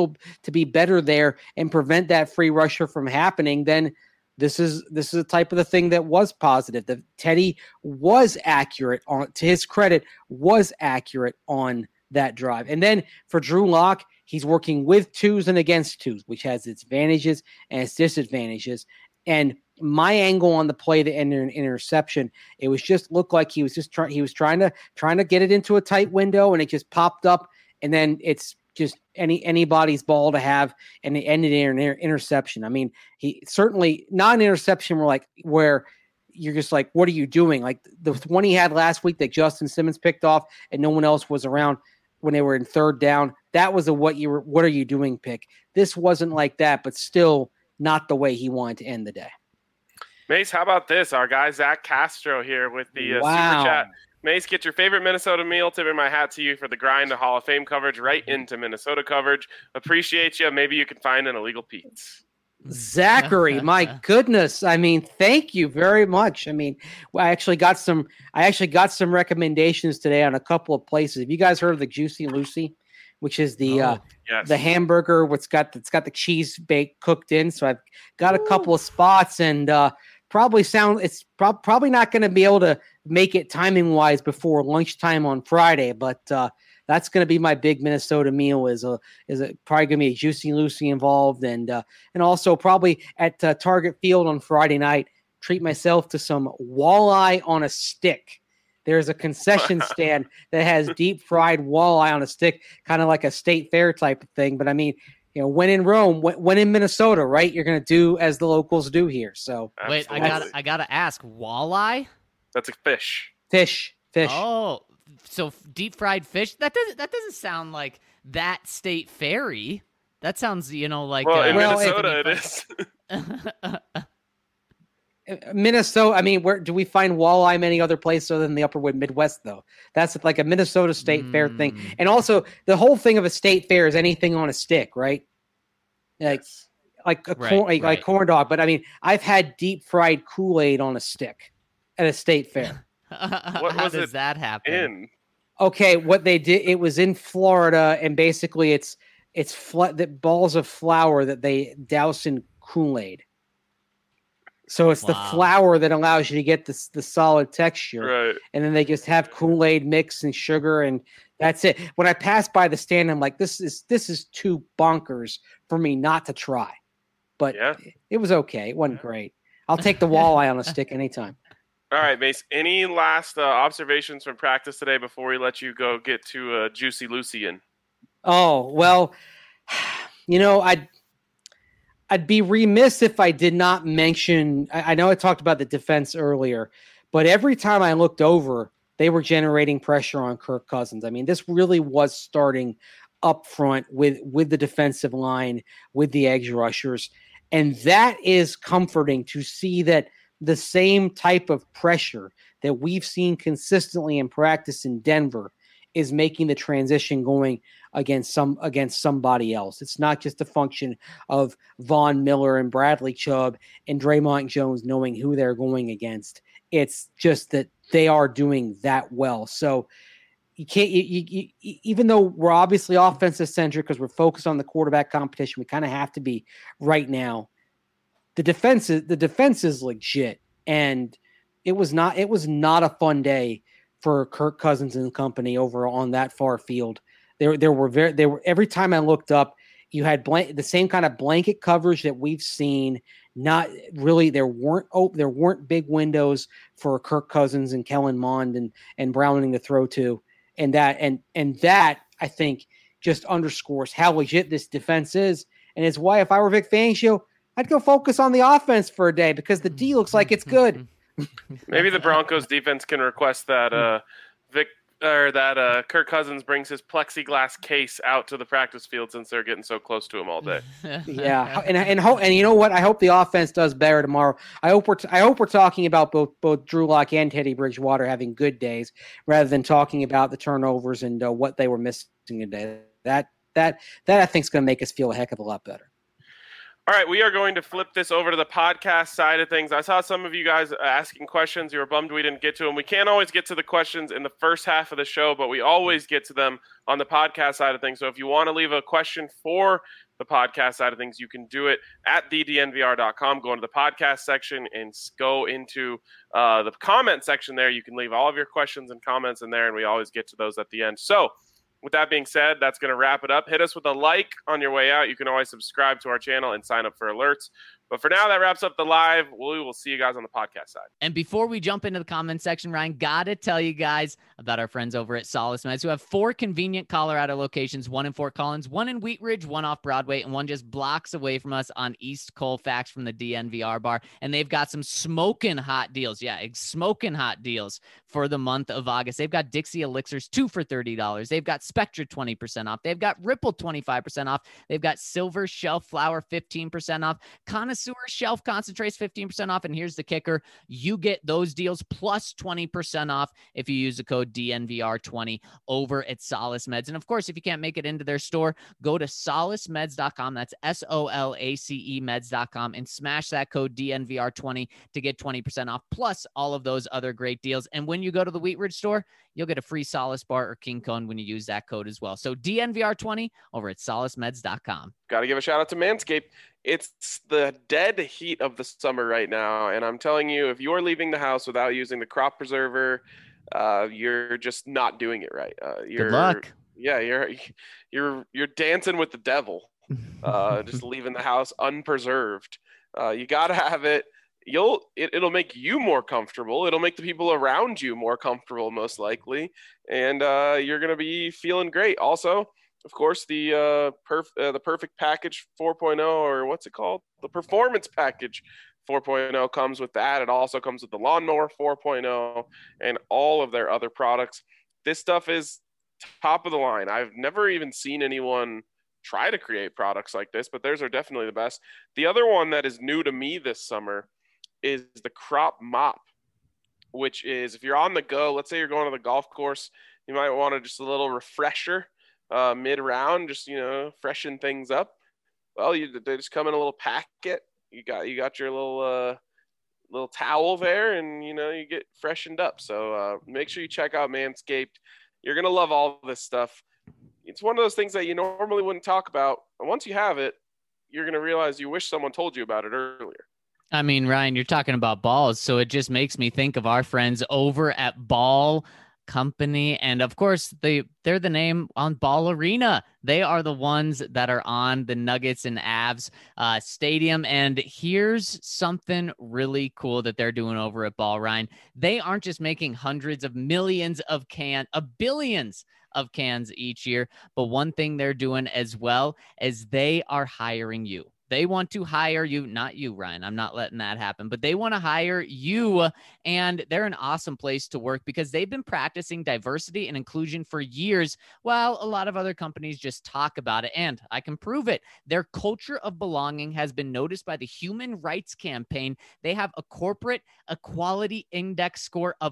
be better there and prevent that free rusher from happening, then. This is a type of the thing that was positive. That Teddy was accurate to his credit, was accurate on that drive. And then for Drew Lock, he's working with twos and against twos, which has its advantages and its disadvantages. And my angle on the play to end an interception, it was just looked like he was trying to get it into a tight window, and it just popped up, and then it's just anybody's ball to have, and it ended in an interception. I mean, he certainly not an interception where you're just like, what are you doing? Like the one he had last week that Justin Simmons picked off and no one else was around when they were in third down. That was a what are you doing pick. This wasn't like that, but still not the way he wanted to end the day. Mace, how about this? Our guy Zach Castro here with the super chat. Mace, get your favorite Minnesota meal. Tipping my hat to you for the grind to Hall of Fame coverage right into Minnesota coverage. Appreciate you. Maybe you can find an illegal Pete's. Zachary, my goodness. I mean, thank you very much. I mean, I actually got some recommendations today on a couple of places. Have you guys heard of the Juicy Lucy, which is the hamburger? It's got the cheese baked cooked in. So I've got a couple of spots, and probably not going to be able to make it timing wise before lunchtime on Friday, but that's going to be my big Minnesota meal. Is it probably going to be a Juicy Lucy involved, and also probably at Target Field on Friday night, treat myself to some walleye on a stick. There's a concession stand that has deep fried walleye on a stick, kind of like a state fair type of thing. But I mean, when in Rome, when in Minnesota, right? You're going to do as the locals do here. So wait, I gotta ask, walleye? That's a fish. Fish. Oh, so deep fried fish? That doesn't sound like that state fairy. That sounds, like. Well, in Minnesota, it is. Minnesota. I mean, where do we find walleye many other places other than the Upper Midwest? Though that's like a Minnesota State Fair thing, and also the whole thing of a state fair is anything on a stick, right? Like corn dog. But I mean, I've had deep fried Kool-Aid on a stick at a state fair. How does that happen? Okay, what they did, it was in Florida, and basically it's balls of flour that they douse in Kool-Aid. So it's the flour that allows you to get the solid texture, right? And then they just have Kool-Aid mix and sugar, and that's it. When I pass by the stand, I'm like, this is too bonkers for me not to try. But it was okay. It wasn't great. I'll take the walleye on a stick anytime. All right, Mace. Any last observations from practice today before we let you go get to Juicy Lucy in? Oh, well, I'd be remiss if I did not mention, I know I talked about the defense earlier, but every time I looked over, they were generating pressure on Kirk Cousins. I mean, this really was starting up front with the defensive line, with the edge rushers. And that is comforting to see that the same type of pressure that we've seen consistently in practice in Denver is making the transition going against somebody else. It's not just a function of Von Miller and Bradley Chubb and Draymond Jones knowing who they're going against. It's just that they are doing that well. So you can't, even though we're obviously offensive centric because we're focused on the quarterback competition, we kind of have to be right now. The defense is legit, and it was not a fun day for Kirk Cousins and company over on that far field. They were every time I looked up, you had the same kind of blanket coverage that we've seen. Not really, there weren't big windows for Kirk Cousins and Kellen Mond and Browning to throw to, and that I think just underscores how legit this defense is, and it's why if I were Vic Fangio, I'd go focus on the offense for a day because the D looks like it's good. Maybe the Broncos defense can request that Kirk Cousins brings his plexiglass case out to the practice field since they're getting so close to him all day. Yeah, and you know what? I hope the offense does better tomorrow. I hope we're talking about both Drew Lock and Teddy Bridgewater having good days rather than talking about the turnovers and what they were missing today. That I think is going to make us feel a heck of a lot better. All right, we are going to flip this over to the podcast side of things. I saw some of you guys asking questions. You were bummed we didn't get to them. We can't always get to the questions in the first half of the show, but we always get to them on the podcast side of things. So if you want to leave a question for the podcast side of things, you can do it at thednvr.com. Go into the podcast section and go into the comment section there. You can leave all of your questions and comments in there, and we always get to those at the end. So with that being said, that's going to wrap it up. Hit us with a like on your way out. You can always subscribe to our channel and sign up for alerts. But for now, that wraps up the live. We will see you guys on the podcast side. And before we jump into the comment section, Ryan, got to tell you guys about our friends over at Solace Meds, who have 4 convenient Colorado locations, 1 in Fort Collins, 1 in Wheat Ridge, 1 off Broadway, and 1 just blocks away from us on East Colfax from the DNVR bar. And they've got some smoking hot deals. Yeah, smoking hot deals for the month of August. They've got Dixie Elixirs 2 for $30. They've got Spectra 20% off. They've got Ripple 25% off. They've got Silver Shelf Flower 15% off. Connoisseur Shelf Concentrates 15% off. And here's the kicker. You get those deals plus 20% off if you use the code DNVR20 over at Solace Meds. And of course, if you can't make it into their store, go to solacemeds.com. That's SOLACE meds.com and smash that code DNVR20 to get 20% off plus all of those other great deals. And when you go to the Wheat Ridge store, you'll get a free Solace bar or King Cone when you use that code as well. So DNVR20 over at solacemeds.com. Got to give a shout out to Manscaped. It's the dead heat of the summer right now. And I'm telling you, if you're leaving the house without using the crop preserver, you're just not doing it right. Good luck. Yeah, you're dancing with the devil. Just leaving the house unpreserved. You got to have it. It'll make you more comfortable. It'll make the people around you more comfortable, most likely. And you're going to be feeling great. Also, of course, the Perfect Package 4.0, or what's it called? The Performance Package 4.0 comes with that. It also comes with the Lawnmower 4.0 and all of their other products. This stuff is top of the line. I've never even seen anyone try to create products like this, but theirs are definitely the best. The other one that is new to me this summer is the Crop Mop, which is if you're on the go, let's say you're going to the golf course, you might want just a little refresher mid-round, just, freshen things up. Well, they just come in a little packet. You got your little towel there, and you get freshened up. So make sure you check out Manscaped. You're gonna love all this stuff. It's one of those things that you normally wouldn't talk about, and once you have it, you're gonna realize you wish someone told you about it earlier. I mean, Ryan, you're talking about balls, so it just makes me think of our friends over at Ball Company, and of course they're the name on Ball Arena. They are the ones that are on the Nuggets and Avs stadium. And here's something really cool that they're doing over at Ball, Ryan. They aren't just making hundreds of millions of billions of cans each year, but one thing they're doing as well is they are hiring you. They want to hire you, not you, Ryan. I'm not letting that happen, but they want to hire you. And they're an awesome place to work because they've been practicing diversity and inclusion for years, while a lot of other companies just talk about it. And I can prove it. Their culture of belonging has been noticed by the Human Rights Campaign. They have a corporate equality index score of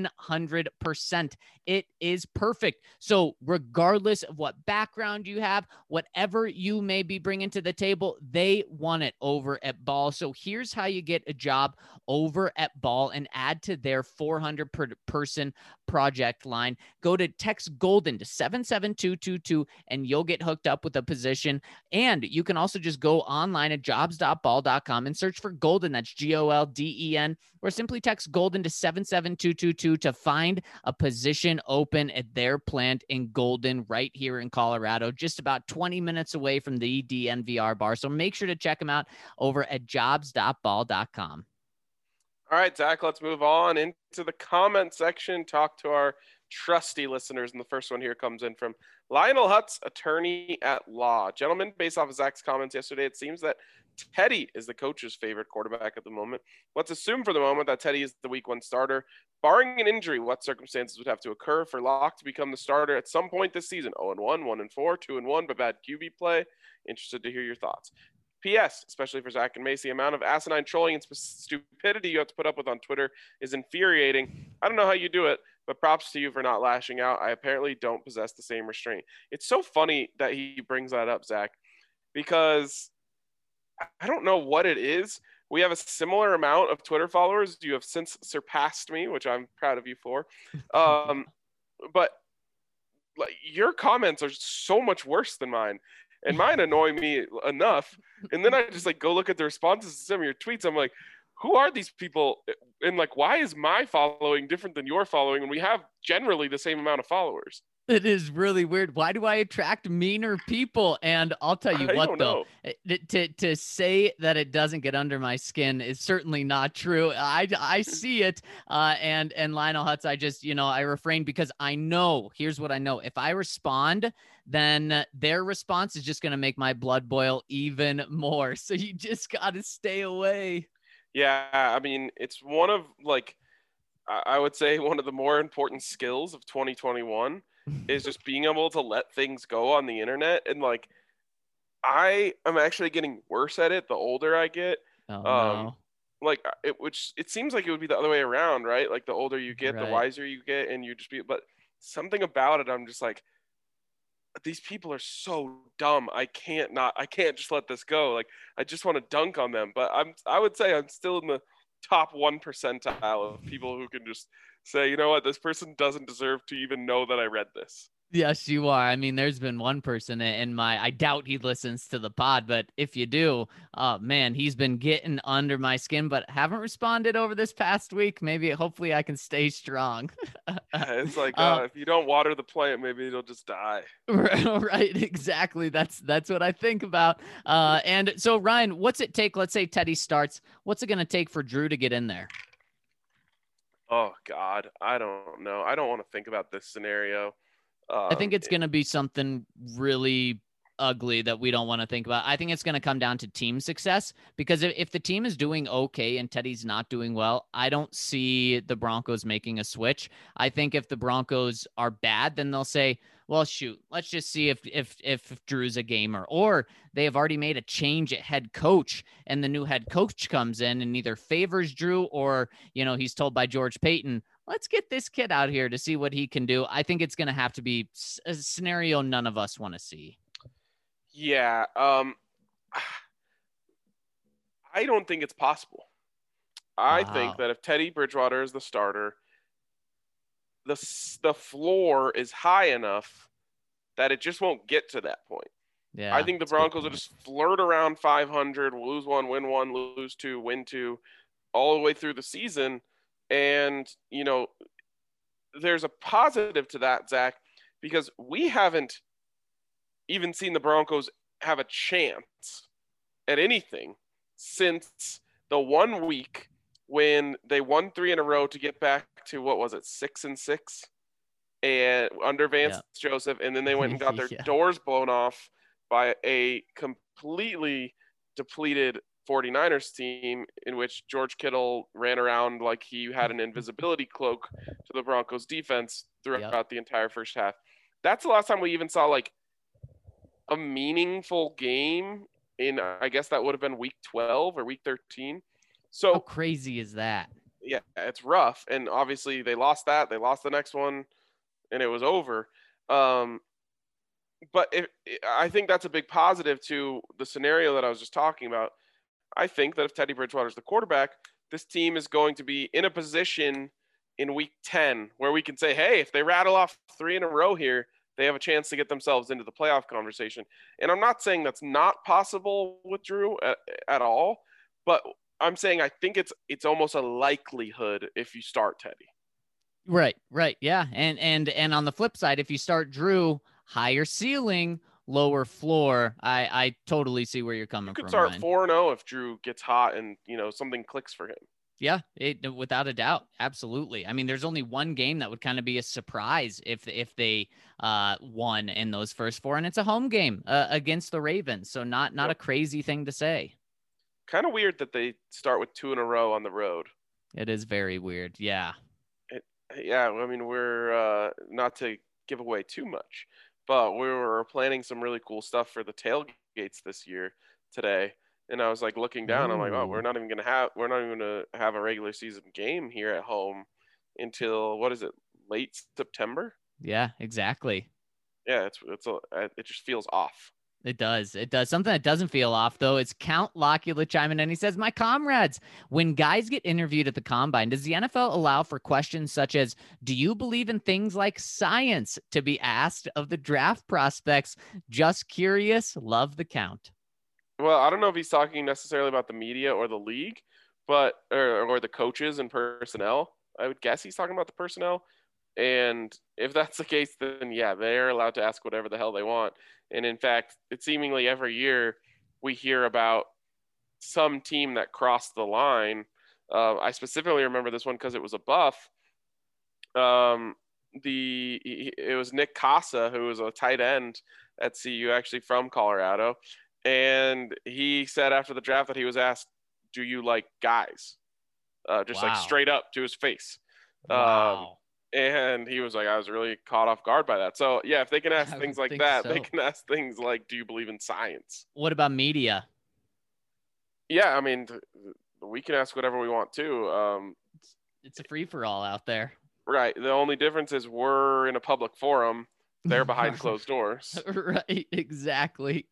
100%. It is perfect. So regardless of what background you have, whatever you may be bringing to the table, they want it over at Ball. So here's how you get a job over at Ball and add to their 400 person project line. Go to text Golden to 77222 and you'll get hooked up with a position. And you can also just go online at jobs.ball.com and search for Golden. That's Golden, or simply text Golden to 77222 to find a position open at their plant in Golden right here in Colorado, just about 20 minutes away from the DNVR bar. So make sure to check them out over at jobs.ball.com. All right, Zach, let's move on into the comment section, talk to our trusty listeners. And the first one here comes in from Lionel Hutz, attorney at law. Gentlemen, based off of Zach's comments yesterday, it seems that Teddy is the coach's favorite quarterback at the moment. Let's assume for the moment that Teddy is the week 1 starter. Barring an injury, what circumstances would have to occur for Locke to become the starter at some point this season? 0-1, 1-4, 2-1, but bad QB play. Interested to hear your thoughts. P.S., especially for Zach and Mace, the amount of asinine trolling and stupidity you have to put up with on Twitter is infuriating. I don't know how you do it, but props to you for not lashing out. I apparently don't possess the same restraint. It's so funny that he brings that up, Zach, because I don't know what it is. We have a similar amount of Twitter followers. You have since surpassed me, which I'm proud of you for. But like, your comments are so much worse than mine. And mine annoy me enough. And then I just like go look at the responses to some of your tweets. I'm like, who are these people? And like, why is my following different than your following when we have generally the same amount of followers? It is really weird. Why do I attract meaner people? And I'll tell you what, though, to say that it doesn't get under my skin is certainly not true. I see it. And Lionel Hutz, I just, I refrain because I know, here's what I know. If I respond, then their response is just going to make my blood boil even more. So you just got to stay away. Yeah. I mean, it's one of I would say one of the more important skills of 2021 is just being able to let things go on the internet. And like, I am actually getting worse at it the older I get. No. Which it seems like it would be the other way around, right? Like the older you get, right, the wiser you get, and you just but something about it, I'm just like, these people are so dumb. I can't just let this go. Like, I just want to dunk on them. But I would say I'm still in the top 1 percentile of people who can just say, you know what, this person doesn't deserve to even know that I read this. Yes, you are. I mean, there's been one person in I doubt he listens to the pod, but if you do, man, he's been getting under my skin, but haven't responded over this past week. Hopefully I can stay strong. It's like, if you don't water the plant, maybe it'll just die. Right. Exactly. That's what I think about. And so Ryan, what's it take? Let's say Teddy starts. What's it going to take for Drew to get in there? Oh God, I don't know. I don't want to think about this scenario. I think it's going to be something really ugly that we don't want to think about. I think it's going to come down to team success, because if the team is doing okay and Teddy's not doing well, I don't see the Broncos making a switch. I think if the Broncos are bad, then they'll say, well, shoot, let's just see if Drew's a gamer, or they have already made a change at head coach and the new head coach comes in and either favors Drew or, he's told by George Payton, let's get this kid out here to see what he can do. I think it's going to have to be a scenario none of us want to see. Yeah. I don't think it's possible. I think that if Teddy Bridgewater is the starter, the floor is high enough that it just won't get to that point. Yeah, I think the Broncos will just flirt around 500, lose 1, win 1, lose 2, win 2, all the way through the season. And, there's a positive to that, Zach, because we haven't even seen the Broncos have a chance at anything since the 1 week when they won 3 in a row to get back to, 6-6, and under Vance Joseph, and then they went and got their doors blown off by a completely depleted 49ers team in which George Kittle ran around like he had an invisibility cloak to the Broncos defense throughout the entire first half. That's the last time we even saw like a meaningful game in, I guess that would have been week 12 or week 13. So how crazy is that? Yeah, it's rough. And obviously they lost that. They lost the next one and it was over. But I think that's a big positive to the scenario that I was just talking about. I think that if Teddy Bridgewater is the quarterback, this team is going to be in a position in week 10 where we can say, hey, if they rattle off 3 in a row here, they have a chance to get themselves into the playoff conversation. And I'm not saying that's not possible with Drew at all, but I'm saying I think it's almost a likelihood if you start Teddy. Right. Yeah. And on the flip side, if you start Drew, higher ceiling, lower floor. I totally see where you're coming from. You could start 4-0 if Drew gets hot and, something clicks for him. Yeah, without a doubt. Absolutely. I mean, there's only one game that would kind of be a surprise if they won in those first 4, and it's a home game against the Ravens. So not a crazy thing to say. Kind of weird that they start with 2 in a row on the road. It is very weird. Yeah. I mean, we're not to give away too much, but we were planning some really cool stuff for the tailgates this year today. And I was like looking down, I'm like, oh, we're not even going to have a regular season game here at home until, what is it, late September? Yeah, exactly. Yeah, it just feels off. It does. Something that doesn't feel off, though, is Count Locula chiming in. He says, my comrades, when guys get interviewed at the Combine, does the NFL allow for questions such as, do you believe in things like science, to be asked of the draft prospects? Just curious. Love the Count. Well, I don't know if he's talking necessarily about the media or the league, but or the coaches and personnel. I would guess he's talking about the personnel. And if that's the case, then yeah, they're allowed to ask whatever the hell they want. And in fact, it's seemingly every year we hear about some team that crossed the line. I specifically remember this one because it was a Buff. It was Nick Casa, who was a tight end at CU, actually from Colorado. And he said after the draft that he was asked, do you like guys? Just like straight up to his face. Wow. And he was like, I was really caught off guard by that. So, yeah, if they can ask things like that, they can ask things like, do you believe in science? What about media? Yeah, I mean, we can ask whatever we want to. It's a free-for-all out there. Right. The only difference is we're in a public forum. They're behind closed doors. Right, exactly.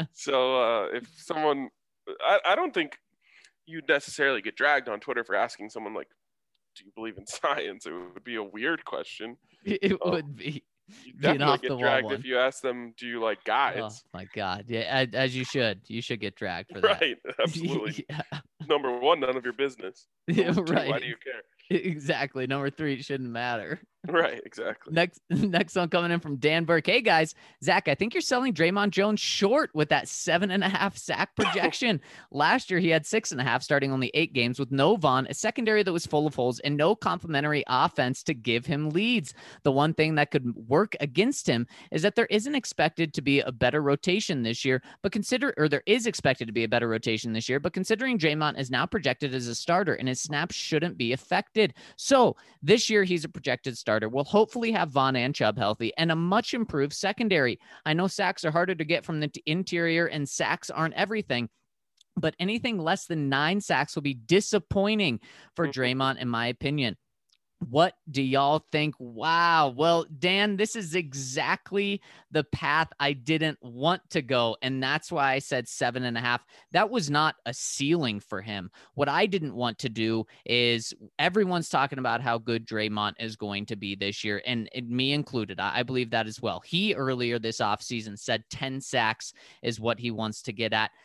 So if someone – I don't think you'd necessarily get dragged on Twitter for asking someone like, do you believe in science? It would be a weird question. It would be. You definitely get dragged if you ask them, do you like guys? Oh my God. Yeah, as you should. You should get dragged for that. Right, absolutely. Yeah. Number 1, none of your business. Number 2, right. Why do you care? Exactly. Number 3, it shouldn't matter. Right, exactly. Next one coming in from Dan Burke. Hey guys, Zach, I think you're selling Draymond Jones short with that 7.5 sack projection. Last year he had 6.5, starting only 8 games with no Vaughn, a secondary that was full of holes, and no complementary offense to give him leads. The one thing that could work against him is that there isn't expected to be a better rotation this year, there is expected to be a better rotation this year, but considering Draymond is now projected as a starter and his snaps shouldn't be affected. So this year he's a projected starter. We'll hopefully have Vaughn and Chubb healthy and a much improved secondary. I know sacks are harder to get from the interior and sacks aren't everything, but anything less than 9 sacks will be disappointing for Draymond, in my opinion. What do y'all think? Wow. Well, Dan, this is exactly the path I didn't want to go. And that's why I said 7.5. That was not a ceiling for him. What I didn't want to do is everyone's talking about how good Draymond is going to be this year, and me included. I believe that as well. He earlier this offseason said 10 sacks is what he wants to get at.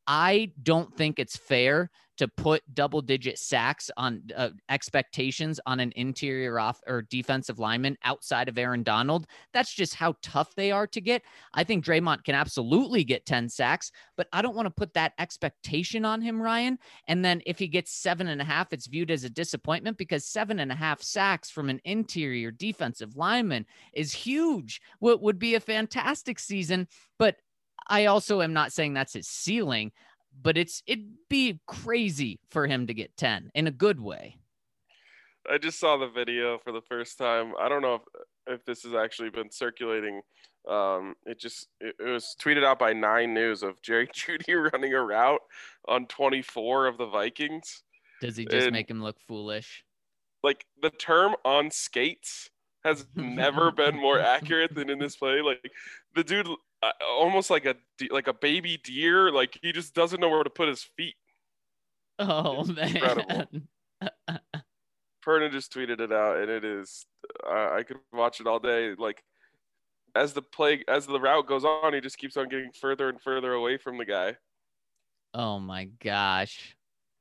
I don't think it's fair to put double-digit sacks on expectations on an interior off or defensive lineman outside of Aaron Donald. That's just how tough they are to get. I think Draymond can absolutely get 10 sacks, but I don't want to put that expectation on him, Ryan. And then if he gets 7.5, it's viewed as a disappointment because 7.5 sacks from an interior defensive lineman is huge. What would be a fantastic season, but I also am not saying that's his ceiling. but it'd be crazy for him to get 10 in a good way. I just saw the video for the first time. I don't know if this has actually been circulating. It was tweeted out by 9 News of Jerry Jeudy running a route on 24 of the Vikings. Does he just make him look foolish? Like, the term on skates has never been more accurate than in this play. Like, the dude almost like a baby deer. Like, he just doesn't know where to put his feet. Oh, it's man. Incredible. Perna just tweeted it out, and it is I could watch it all day. Like, as the route goes on, he just keeps on getting further and further away from the guy. Oh my gosh.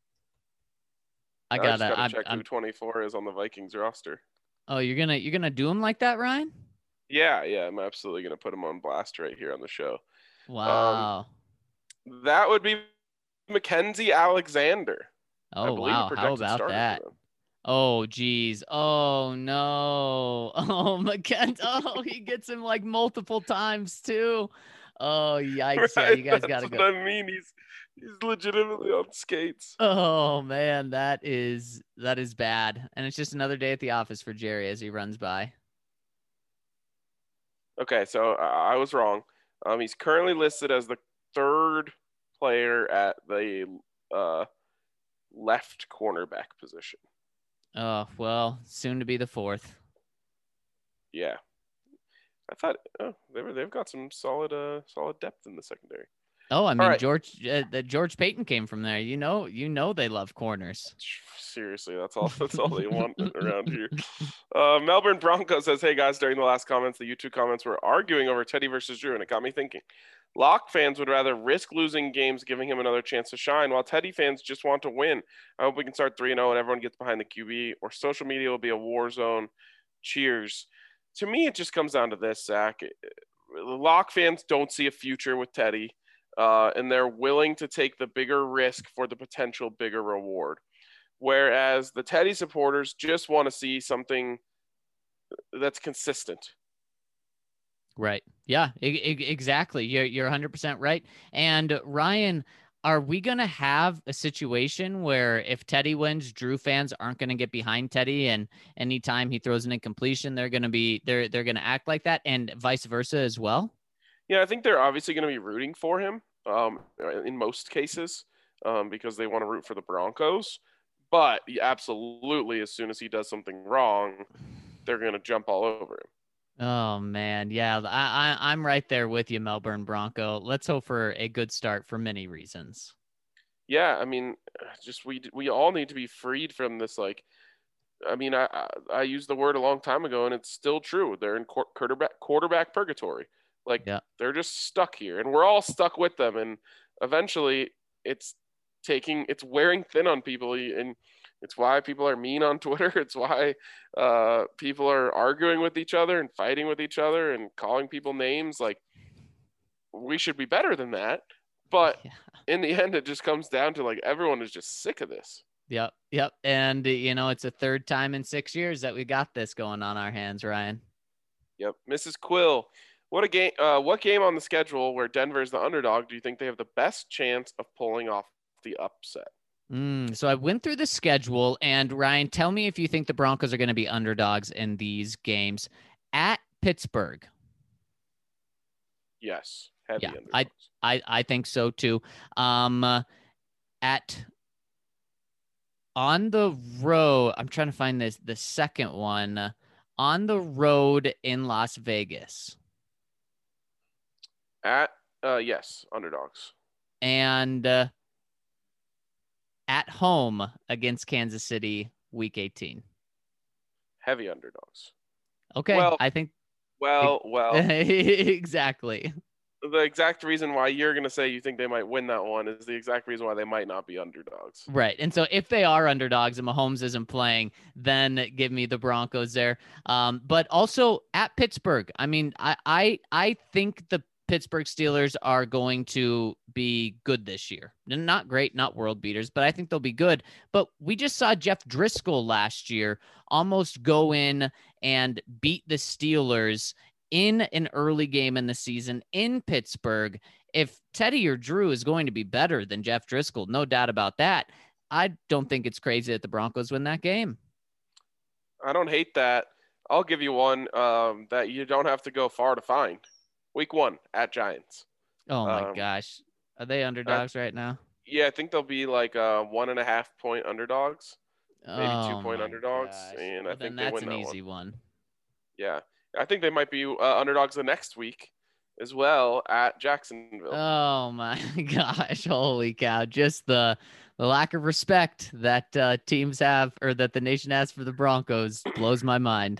I gotta check who 24 is on the Vikings roster. Oh, you're gonna do him like that, Ryan? Yeah, I'm absolutely gonna put him on blast right here on the show. Wow. That would be Mackenzie Alexander. Oh wow, how about that? Oh geez. Oh no. Oh, Mackenzie. Oh, he gets him like multiple times too. Oh yikes! Right? Yeah, you guys gotta go. I mean, he's legitimately on skates. Oh man, that is bad, and it's just another day at the office for Jerry as he runs by. Okay, so I was wrong. He's currently listed as the 3rd player at the left cornerback position. Oh well, soon to be the 4th. Yeah. I thought they've got some solid depth in the secondary. Oh, I mean, right. George Payton came from there. You know they love corners. Seriously, that's all they want around here. Melbourne Broncos says, "Hey guys, during the last comments, the YouTube comments were arguing over Teddy versus Drew, and it got me thinking. Lock fans would rather risk losing games, giving him another chance to shine, while Teddy fans just want to win. I hope we can start 3-0 and everyone gets behind the QB, or social media will be a war zone. Cheers." To me, it just comes down to this, Zach. Lock fans don't see a future with Teddy, and they're willing to take the bigger risk for the potential bigger reward. Whereas the Teddy supporters just want to see something that's consistent. Right. Yeah, exactly. You're 100% right. And Ryan, are we going to have a situation where if Teddy wins, Drew fans aren't going to get behind Teddy, and anytime he throws an incompletion, they're going to act like that, and vice versa as well? Yeah, I think they're obviously going to be rooting for him in most cases because they want to root for the Broncos. But absolutely, as soon as he does something wrong, they're going to jump all over him. Oh man, yeah, I'm right there with you, Melbourne Bronco. Let's hope for a good start for many reasons. Yeah, I mean, just we all need to be freed from this. Like, I mean, I used the word a long time ago, and it's still true. They're in quarterback purgatory. Like, yeah. They're just stuck here, and we're all stuck with them. And eventually, it's wearing thin on people, and it's why people are mean on Twitter. It's why people are arguing with each other and fighting with each other and calling people names. Like, we should be better than that. But in the end, it just comes down to, like, everyone is just sick of this. Yep. And, it's a 3rd time in 6 years that we got this going on our hands, Ryan. Yep. Mrs. Quill, what game on the schedule where Denver is the underdog do you think they have the best chance of pulling off the upset? So I went through the schedule, and Ryan, tell me if you think the Broncos are going to be underdogs in these games. At Pittsburgh. Yes. Heavy underdogs. I think so too. On the road, I'm trying to find the second one. On the road in Las Vegas. Yes, underdogs. And at home against Kansas City, Week 18. Heavy underdogs. Okay, well, I think. Well. Exactly. The exact reason why you're going to say you think they might win that one is the exact reason why they might not be underdogs. Right. And so if they are underdogs and Mahomes isn't playing, then give me the Broncos there. But also at Pittsburgh, I mean, I think the Pittsburgh Steelers are going to be good this year. Not great, not world beaters, but I think they'll be good. But we just saw Jeff Driscoll last year almost go in and beat the Steelers in an early game in the season in Pittsburgh. If Teddy or Drew is going to be better than Jeff Driscoll, no doubt about that, I don't think it's crazy that the Broncos win that game. I don't hate that. I'll give you one that you don't have to go far to find. Week 1 at Giants. Oh, my gosh. Are they underdogs right now? Yeah, I think they'll be like 1.5 point underdogs, maybe 2 point underdogs, gosh. and Well, I think then they that's win an that easy one. one. Yeah, I think they might be underdogs the next week as well at Jacksonville. Oh my gosh! Holy cow! Just the lack of respect that teams have, or that the nation has for the Broncos, blows my mind.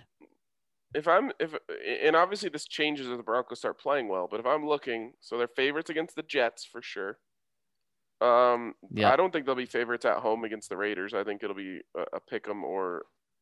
And obviously this changes if the Broncos start playing well, but if I'm looking, so they're favorites against the Jets for sure. I don't think they'll be favorites at home against the Raiders. I think it'll be a pick 'em or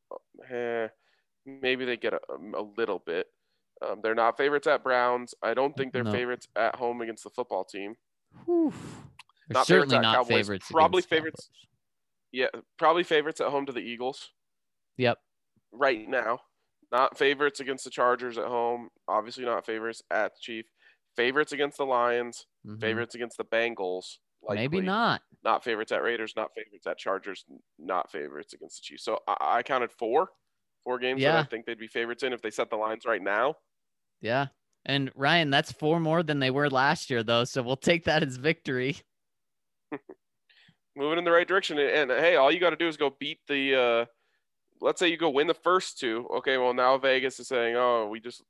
maybe they get a little bit. They're not favorites at Browns. I don't think they're favorites at home against the football team. They're not certainly favorites at not Cowboys. favorites. Probably favorites. Yeah, probably favorites at home to the Eagles. Yep. Right now. Not favorites against the Chargers at home. Obviously not favorites at the Chiefs. Favorites against the Lions. Mm-hmm. Favorites against the Bengals. Likely. Maybe not. Not favorites at Raiders. Not favorites at Chargers. Not favorites against the Chiefs. So I counted four games that I think they'd be favorites in if they set the lines right now. Yeah. And Ryan, that's 4 more than they were last year, though. So we'll take that as victory. Moving in the right direction. And hey, all you got to do is go beat the let's say you go win the first 2. Okay, well, now Vegas is saying, oh, we just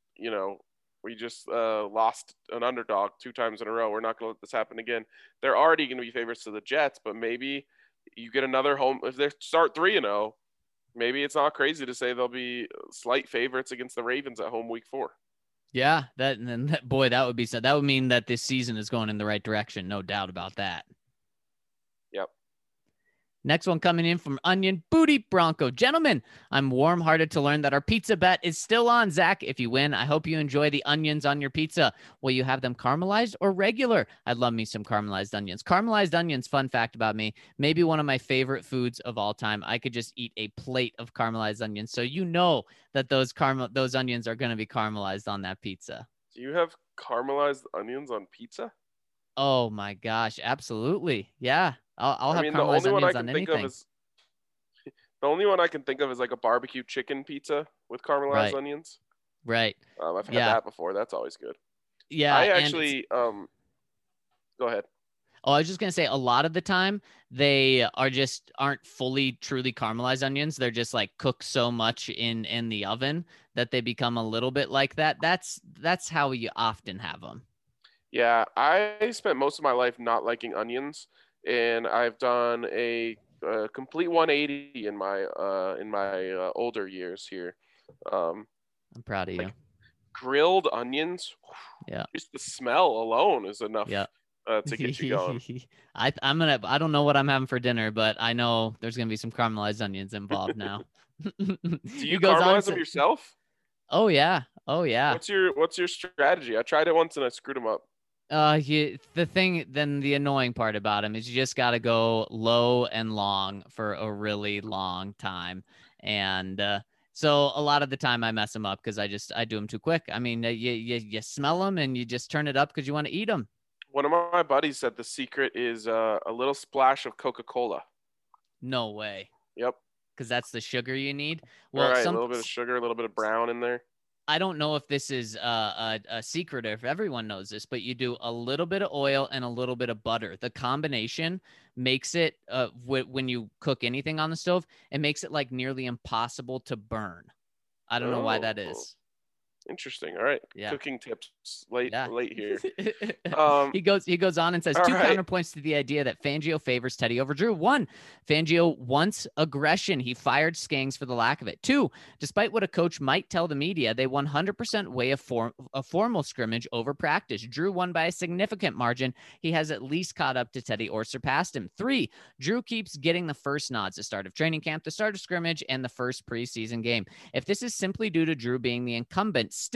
lost an underdog 2 times in a row. We're not going to let this happen again. They're already going to be favorites to the Jets, but maybe you get another home. If they start 3-0, maybe it's not crazy to say they'll be slight favorites against the Ravens at home week 4. Yeah, that would be so. That would mean that this season is going in the right direction. No doubt about that. Yep. Next one coming in from Onion Booty Bronco. Gentlemen, I'm warm-hearted to learn that our pizza bet is still on. Zach, if you win, I hope you enjoy the onions on your pizza. Will you have them caramelized or regular? I'd love me some caramelized onions. Caramelized onions, fun fact about me, maybe one of my favorite foods of all time. I could just eat a plate of caramelized onions. So you know that those onions are going to be caramelized on that pizza. Do you have caramelized onions on pizza? Oh my gosh, absolutely. Yeah. I'll have caramelized onions on anything. The only one I can think of is like a barbecue chicken pizza with caramelized onions. Right. I've had that before. That's always good. Yeah. I actually go ahead. Oh, I was just going to say a lot of the time they aren't fully truly caramelized onions. They're just like cooked so much in the oven that they become a little bit like that. That's how you often have them. Yeah, I spent most of my life not liking onions, and I've done a complete 180 in my older years here. I'm proud of you. Grilled onions. Yeah. Just the smell alone is enough. Yeah. To get you going. I don't know what I'm having for dinner, but I know there's gonna be some caramelized onions involved now. Do you caramelize them yourself? Oh yeah. What's your strategy? I tried it once and I screwed them up. The annoying part about them is you just got to go low and long for a really long time. And so a lot of the time I mess them up because I do them too quick. I mean, you smell them and you just turn it up because you want to eat them. One of my buddies said the secret is a little splash of Coca-Cola. No way. Yep. Because that's the sugar you need. Well, right, a little bit of sugar, a little bit of brown in there. I don't know if this is a secret or if everyone knows this, but you do a little bit of oil and a little bit of butter. The combination makes it, when you cook anything on the stove, it makes it like nearly impossible to burn. I don't know why that is. Interesting. All right. Yeah. Cooking tips late here. He goes on and says 2 counterpoints to the idea that Fangio favors Teddy over Drew. 1, Fangio wants aggression. He fired Skangs for the lack of it. 2, despite what a coach might tell the media, they 100% weigh a formal scrimmage over practice. Drew won by a significant margin. He has at least caught up to Teddy or surpassed him. 3, Drew keeps getting the first nods, the start of training camp, the start of scrimmage, and the first preseason game. If this is simply due to Drew being the incumbent, still,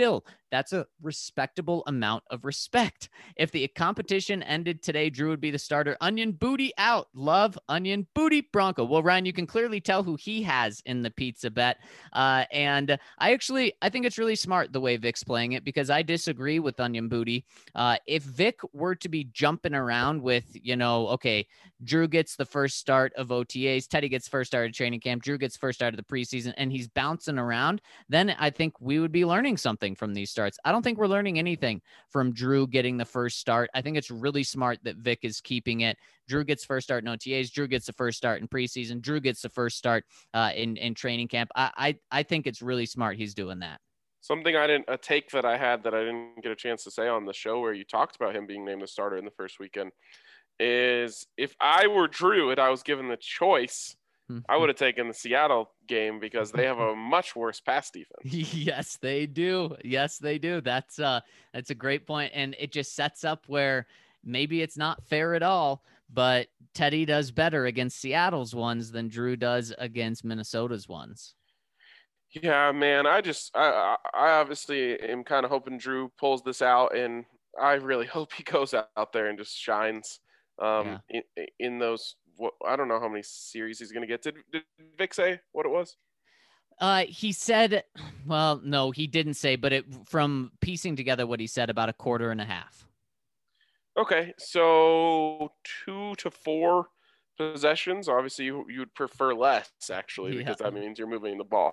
That's a respectable amount of respect. If the competition ended today, Drew would be the starter. Onion booty out. Love onion booty Bronco. Well, Ryan, you can clearly tell who he has in the pizza bet. And I think it's really smart the way Vic's playing it, because I disagree with onion booty. If Vic were to be jumping around with, okay, Drew gets the first start of OTAs, Teddy gets first start of training camp, Drew gets first start of the preseason, and he's bouncing around, then I think we would be learning something from these starts. I don't think we're learning anything from Drew getting the first start. I think it's really smart that Vic is keeping it. Drew gets first start in OTAs. Drew gets the first start in preseason. Drew gets the first start in training camp. I think it's really smart he's doing that. A take that I had that I didn't get a chance to say on the show where you talked about him being named the starter in the first weekend is, if I were Drew and I was given the choice, I would have taken the Seattle game because they have a much worse pass defense. Yes, they do. Yes, they do. That's a great point. And it just sets up where maybe it's not fair at all, but Teddy does better against Seattle's ones than Drew does against Minnesota's ones. Yeah, man. I obviously am kind of hoping Drew pulls this out, and I really hope he goes out there and just shines in those. I don't know how many series he's going to get. Did Vic say what it was? He said, well, no, he didn't say, but from piecing together what he said, about a quarter and a half. Okay, so 2 to 4 possessions. Obviously, you'd prefer less, actually, because that means you're moving the ball.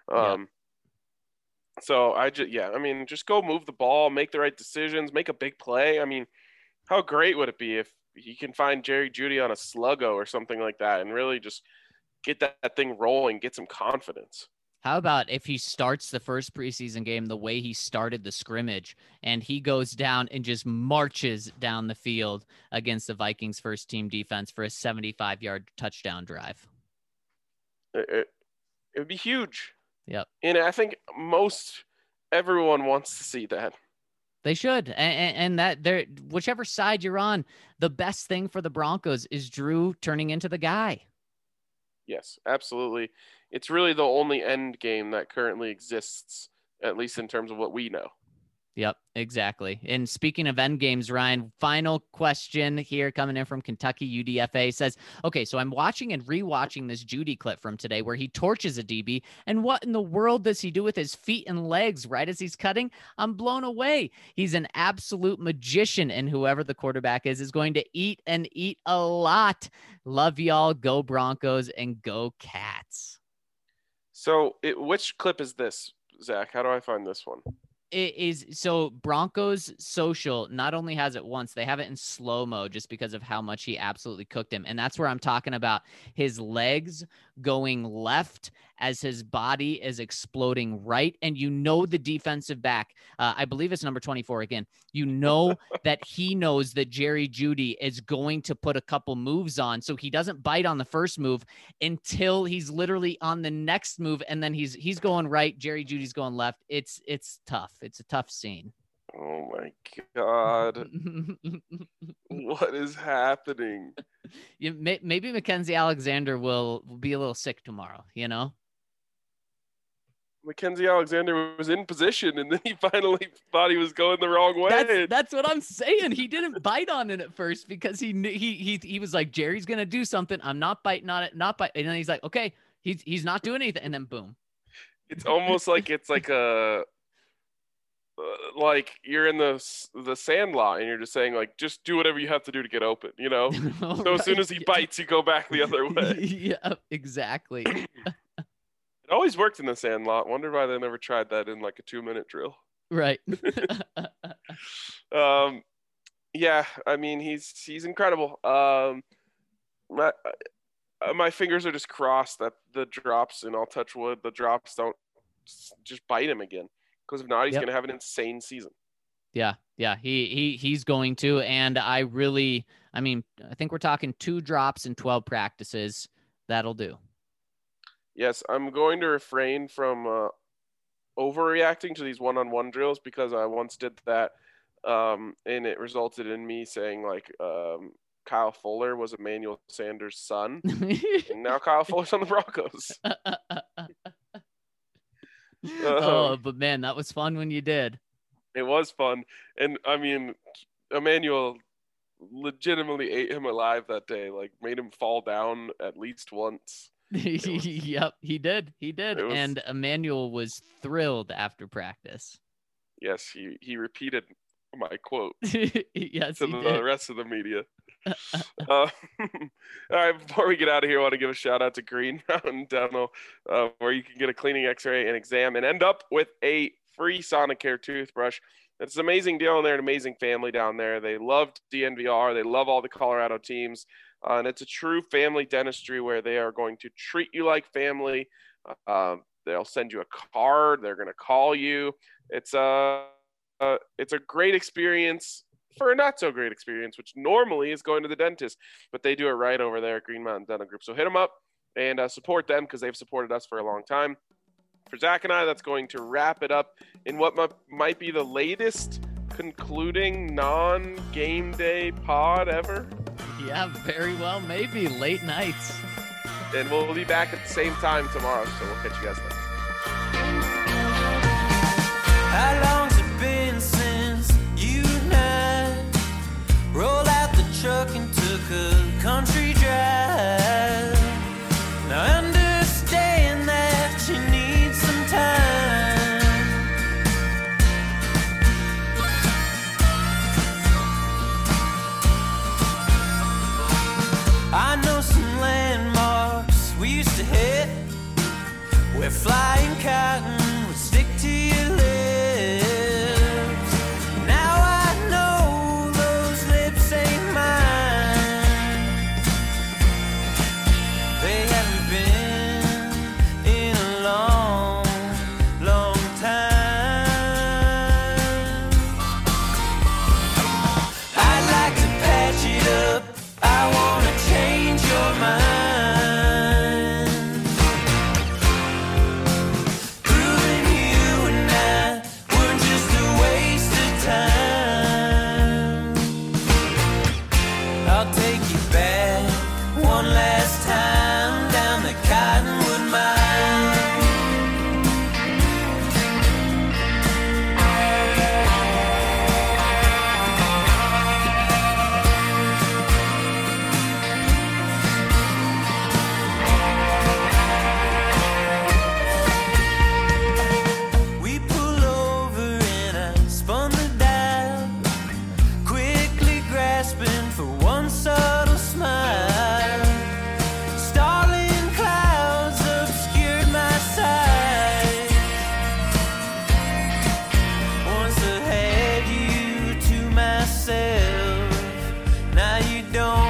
So just go move the ball, make the right decisions, make a big play. I mean, how great would it be if he can find Jerry Jeudy on a sluggo or something like that and really just get that thing rolling, get some confidence? How about if he starts the first preseason game the way he started the scrimmage, and he goes down and just marches down the field against the Vikings first team defense for a 75-yard touchdown drive? It would be huge. Yep. And I think everyone wants to see that. They should. And that whichever side you're on, the best thing for the Broncos is Drew turning into the guy. Yes, absolutely. It's really the only end game that currently exists, at least in terms of what we know. Yep, exactly. And speaking of end games, Ryan, final question here coming in from Kentucky UDFA says, okay, so I'm watching and rewatching this Jeudy clip from today where he torches a DB, and what in the world does he do with his feet and legs right as he's cutting? I'm blown away. He's an absolute magician, and whoever the quarterback is going to eat and eat a lot. Love y'all. Go Broncos and go Cats. So which clip is this, Zach? How do I find this one? It is so Broncos social not only has it once, they have it in slow-mo just because of how much he absolutely cooked him. And that's where I'm talking about his legs going left as his body is exploding right. And the defensive back, I believe it's number 24 again, that he knows that Jerry Jeudy is going to put a couple moves on. So he doesn't bite on the first move until he's literally on the next move. And then he's going right. Jerry Jeudy's going left. It's tough. It's a tough scene. Oh my God. What is happening? Maybe Mackenzie Alexander will be a little sick tomorrow, Mackenzie Alexander was in position, and then he finally thought he was going the wrong way. That's what I'm saying. He didn't bite on it at first because he was like, Jerry's going to do something. I'm not biting on it, not bite. And then he's like, okay, he's not doing anything. And then boom. It's almost like it's like like you're in the Sandlot and you're just saying, like, just do whatever you have to do to get open, So right. As soon as he bites, you go back the other way. Yeah, exactly. It always worked in the Sandlot. Wonder why they never tried that in like a 2-minute drill. Right. Yeah, I mean, he's incredible. My fingers are just crossed that the drops, and I'll touch wood, the drops don't just bite him again. Because if not, he's going to have an insane season. Yeah, he's going to. And I think we're talking 2 drops and 12 practices. That'll do. Yes, I'm going to refrain from overreacting to these one-on-one drills because I once did that, and it resulted in me saying, like, Kyle Fuller was Emmanuel Sanders' son, and now Kyle Fuller's on the Broncos. But man, that was fun when you did. It was fun. And I mean, Emmanuel legitimately ate him alive that day, like made him fall down at least once. Yep, he did. And Emmanuel was thrilled after practice. Yes, he repeated my quote yes, to the rest of the media. All right, before we get out of here, I want to give a shout out to Green Mountain Dental, where you can get a cleaning, x-ray, and exam and end up with a free Sonicare toothbrush. It's an amazing deal, and they're an amazing family down there. They love DNVR. They love all the Colorado teams. And it's a true family dentistry where they are going to treat you like family. They'll send you a card. They're going to call you. It's a great experience for a not so great experience, which normally is going to the dentist, but they do it right over there at Green Mountain Dental Group. So hit them up and support them because they've supported us for a long time. For Zach and I, that's going to wrap it up in what might be the latest concluding non-game day pod ever. Yeah, very well, maybe late nights. And we'll be back at the same time tomorrow, so we'll catch you guys then. How long's it been since you and I rolled out the truck and took a country drive? Now I understand that you need some time. I know some landmarks we used to hit where flying cotton would stick to your lips. Now I know those lips ain't mine. They haven't been in a long, long time. I'd like to patch it up. I wanna change your mind. Proving you and I were just a waste of time. I'll take you back one last time down the Cottonwood Mine. We pull over and I spun the dial, quickly grasping for one subtle smile. Starling clouds obscured my sight. Once I had you to myself, now you don't.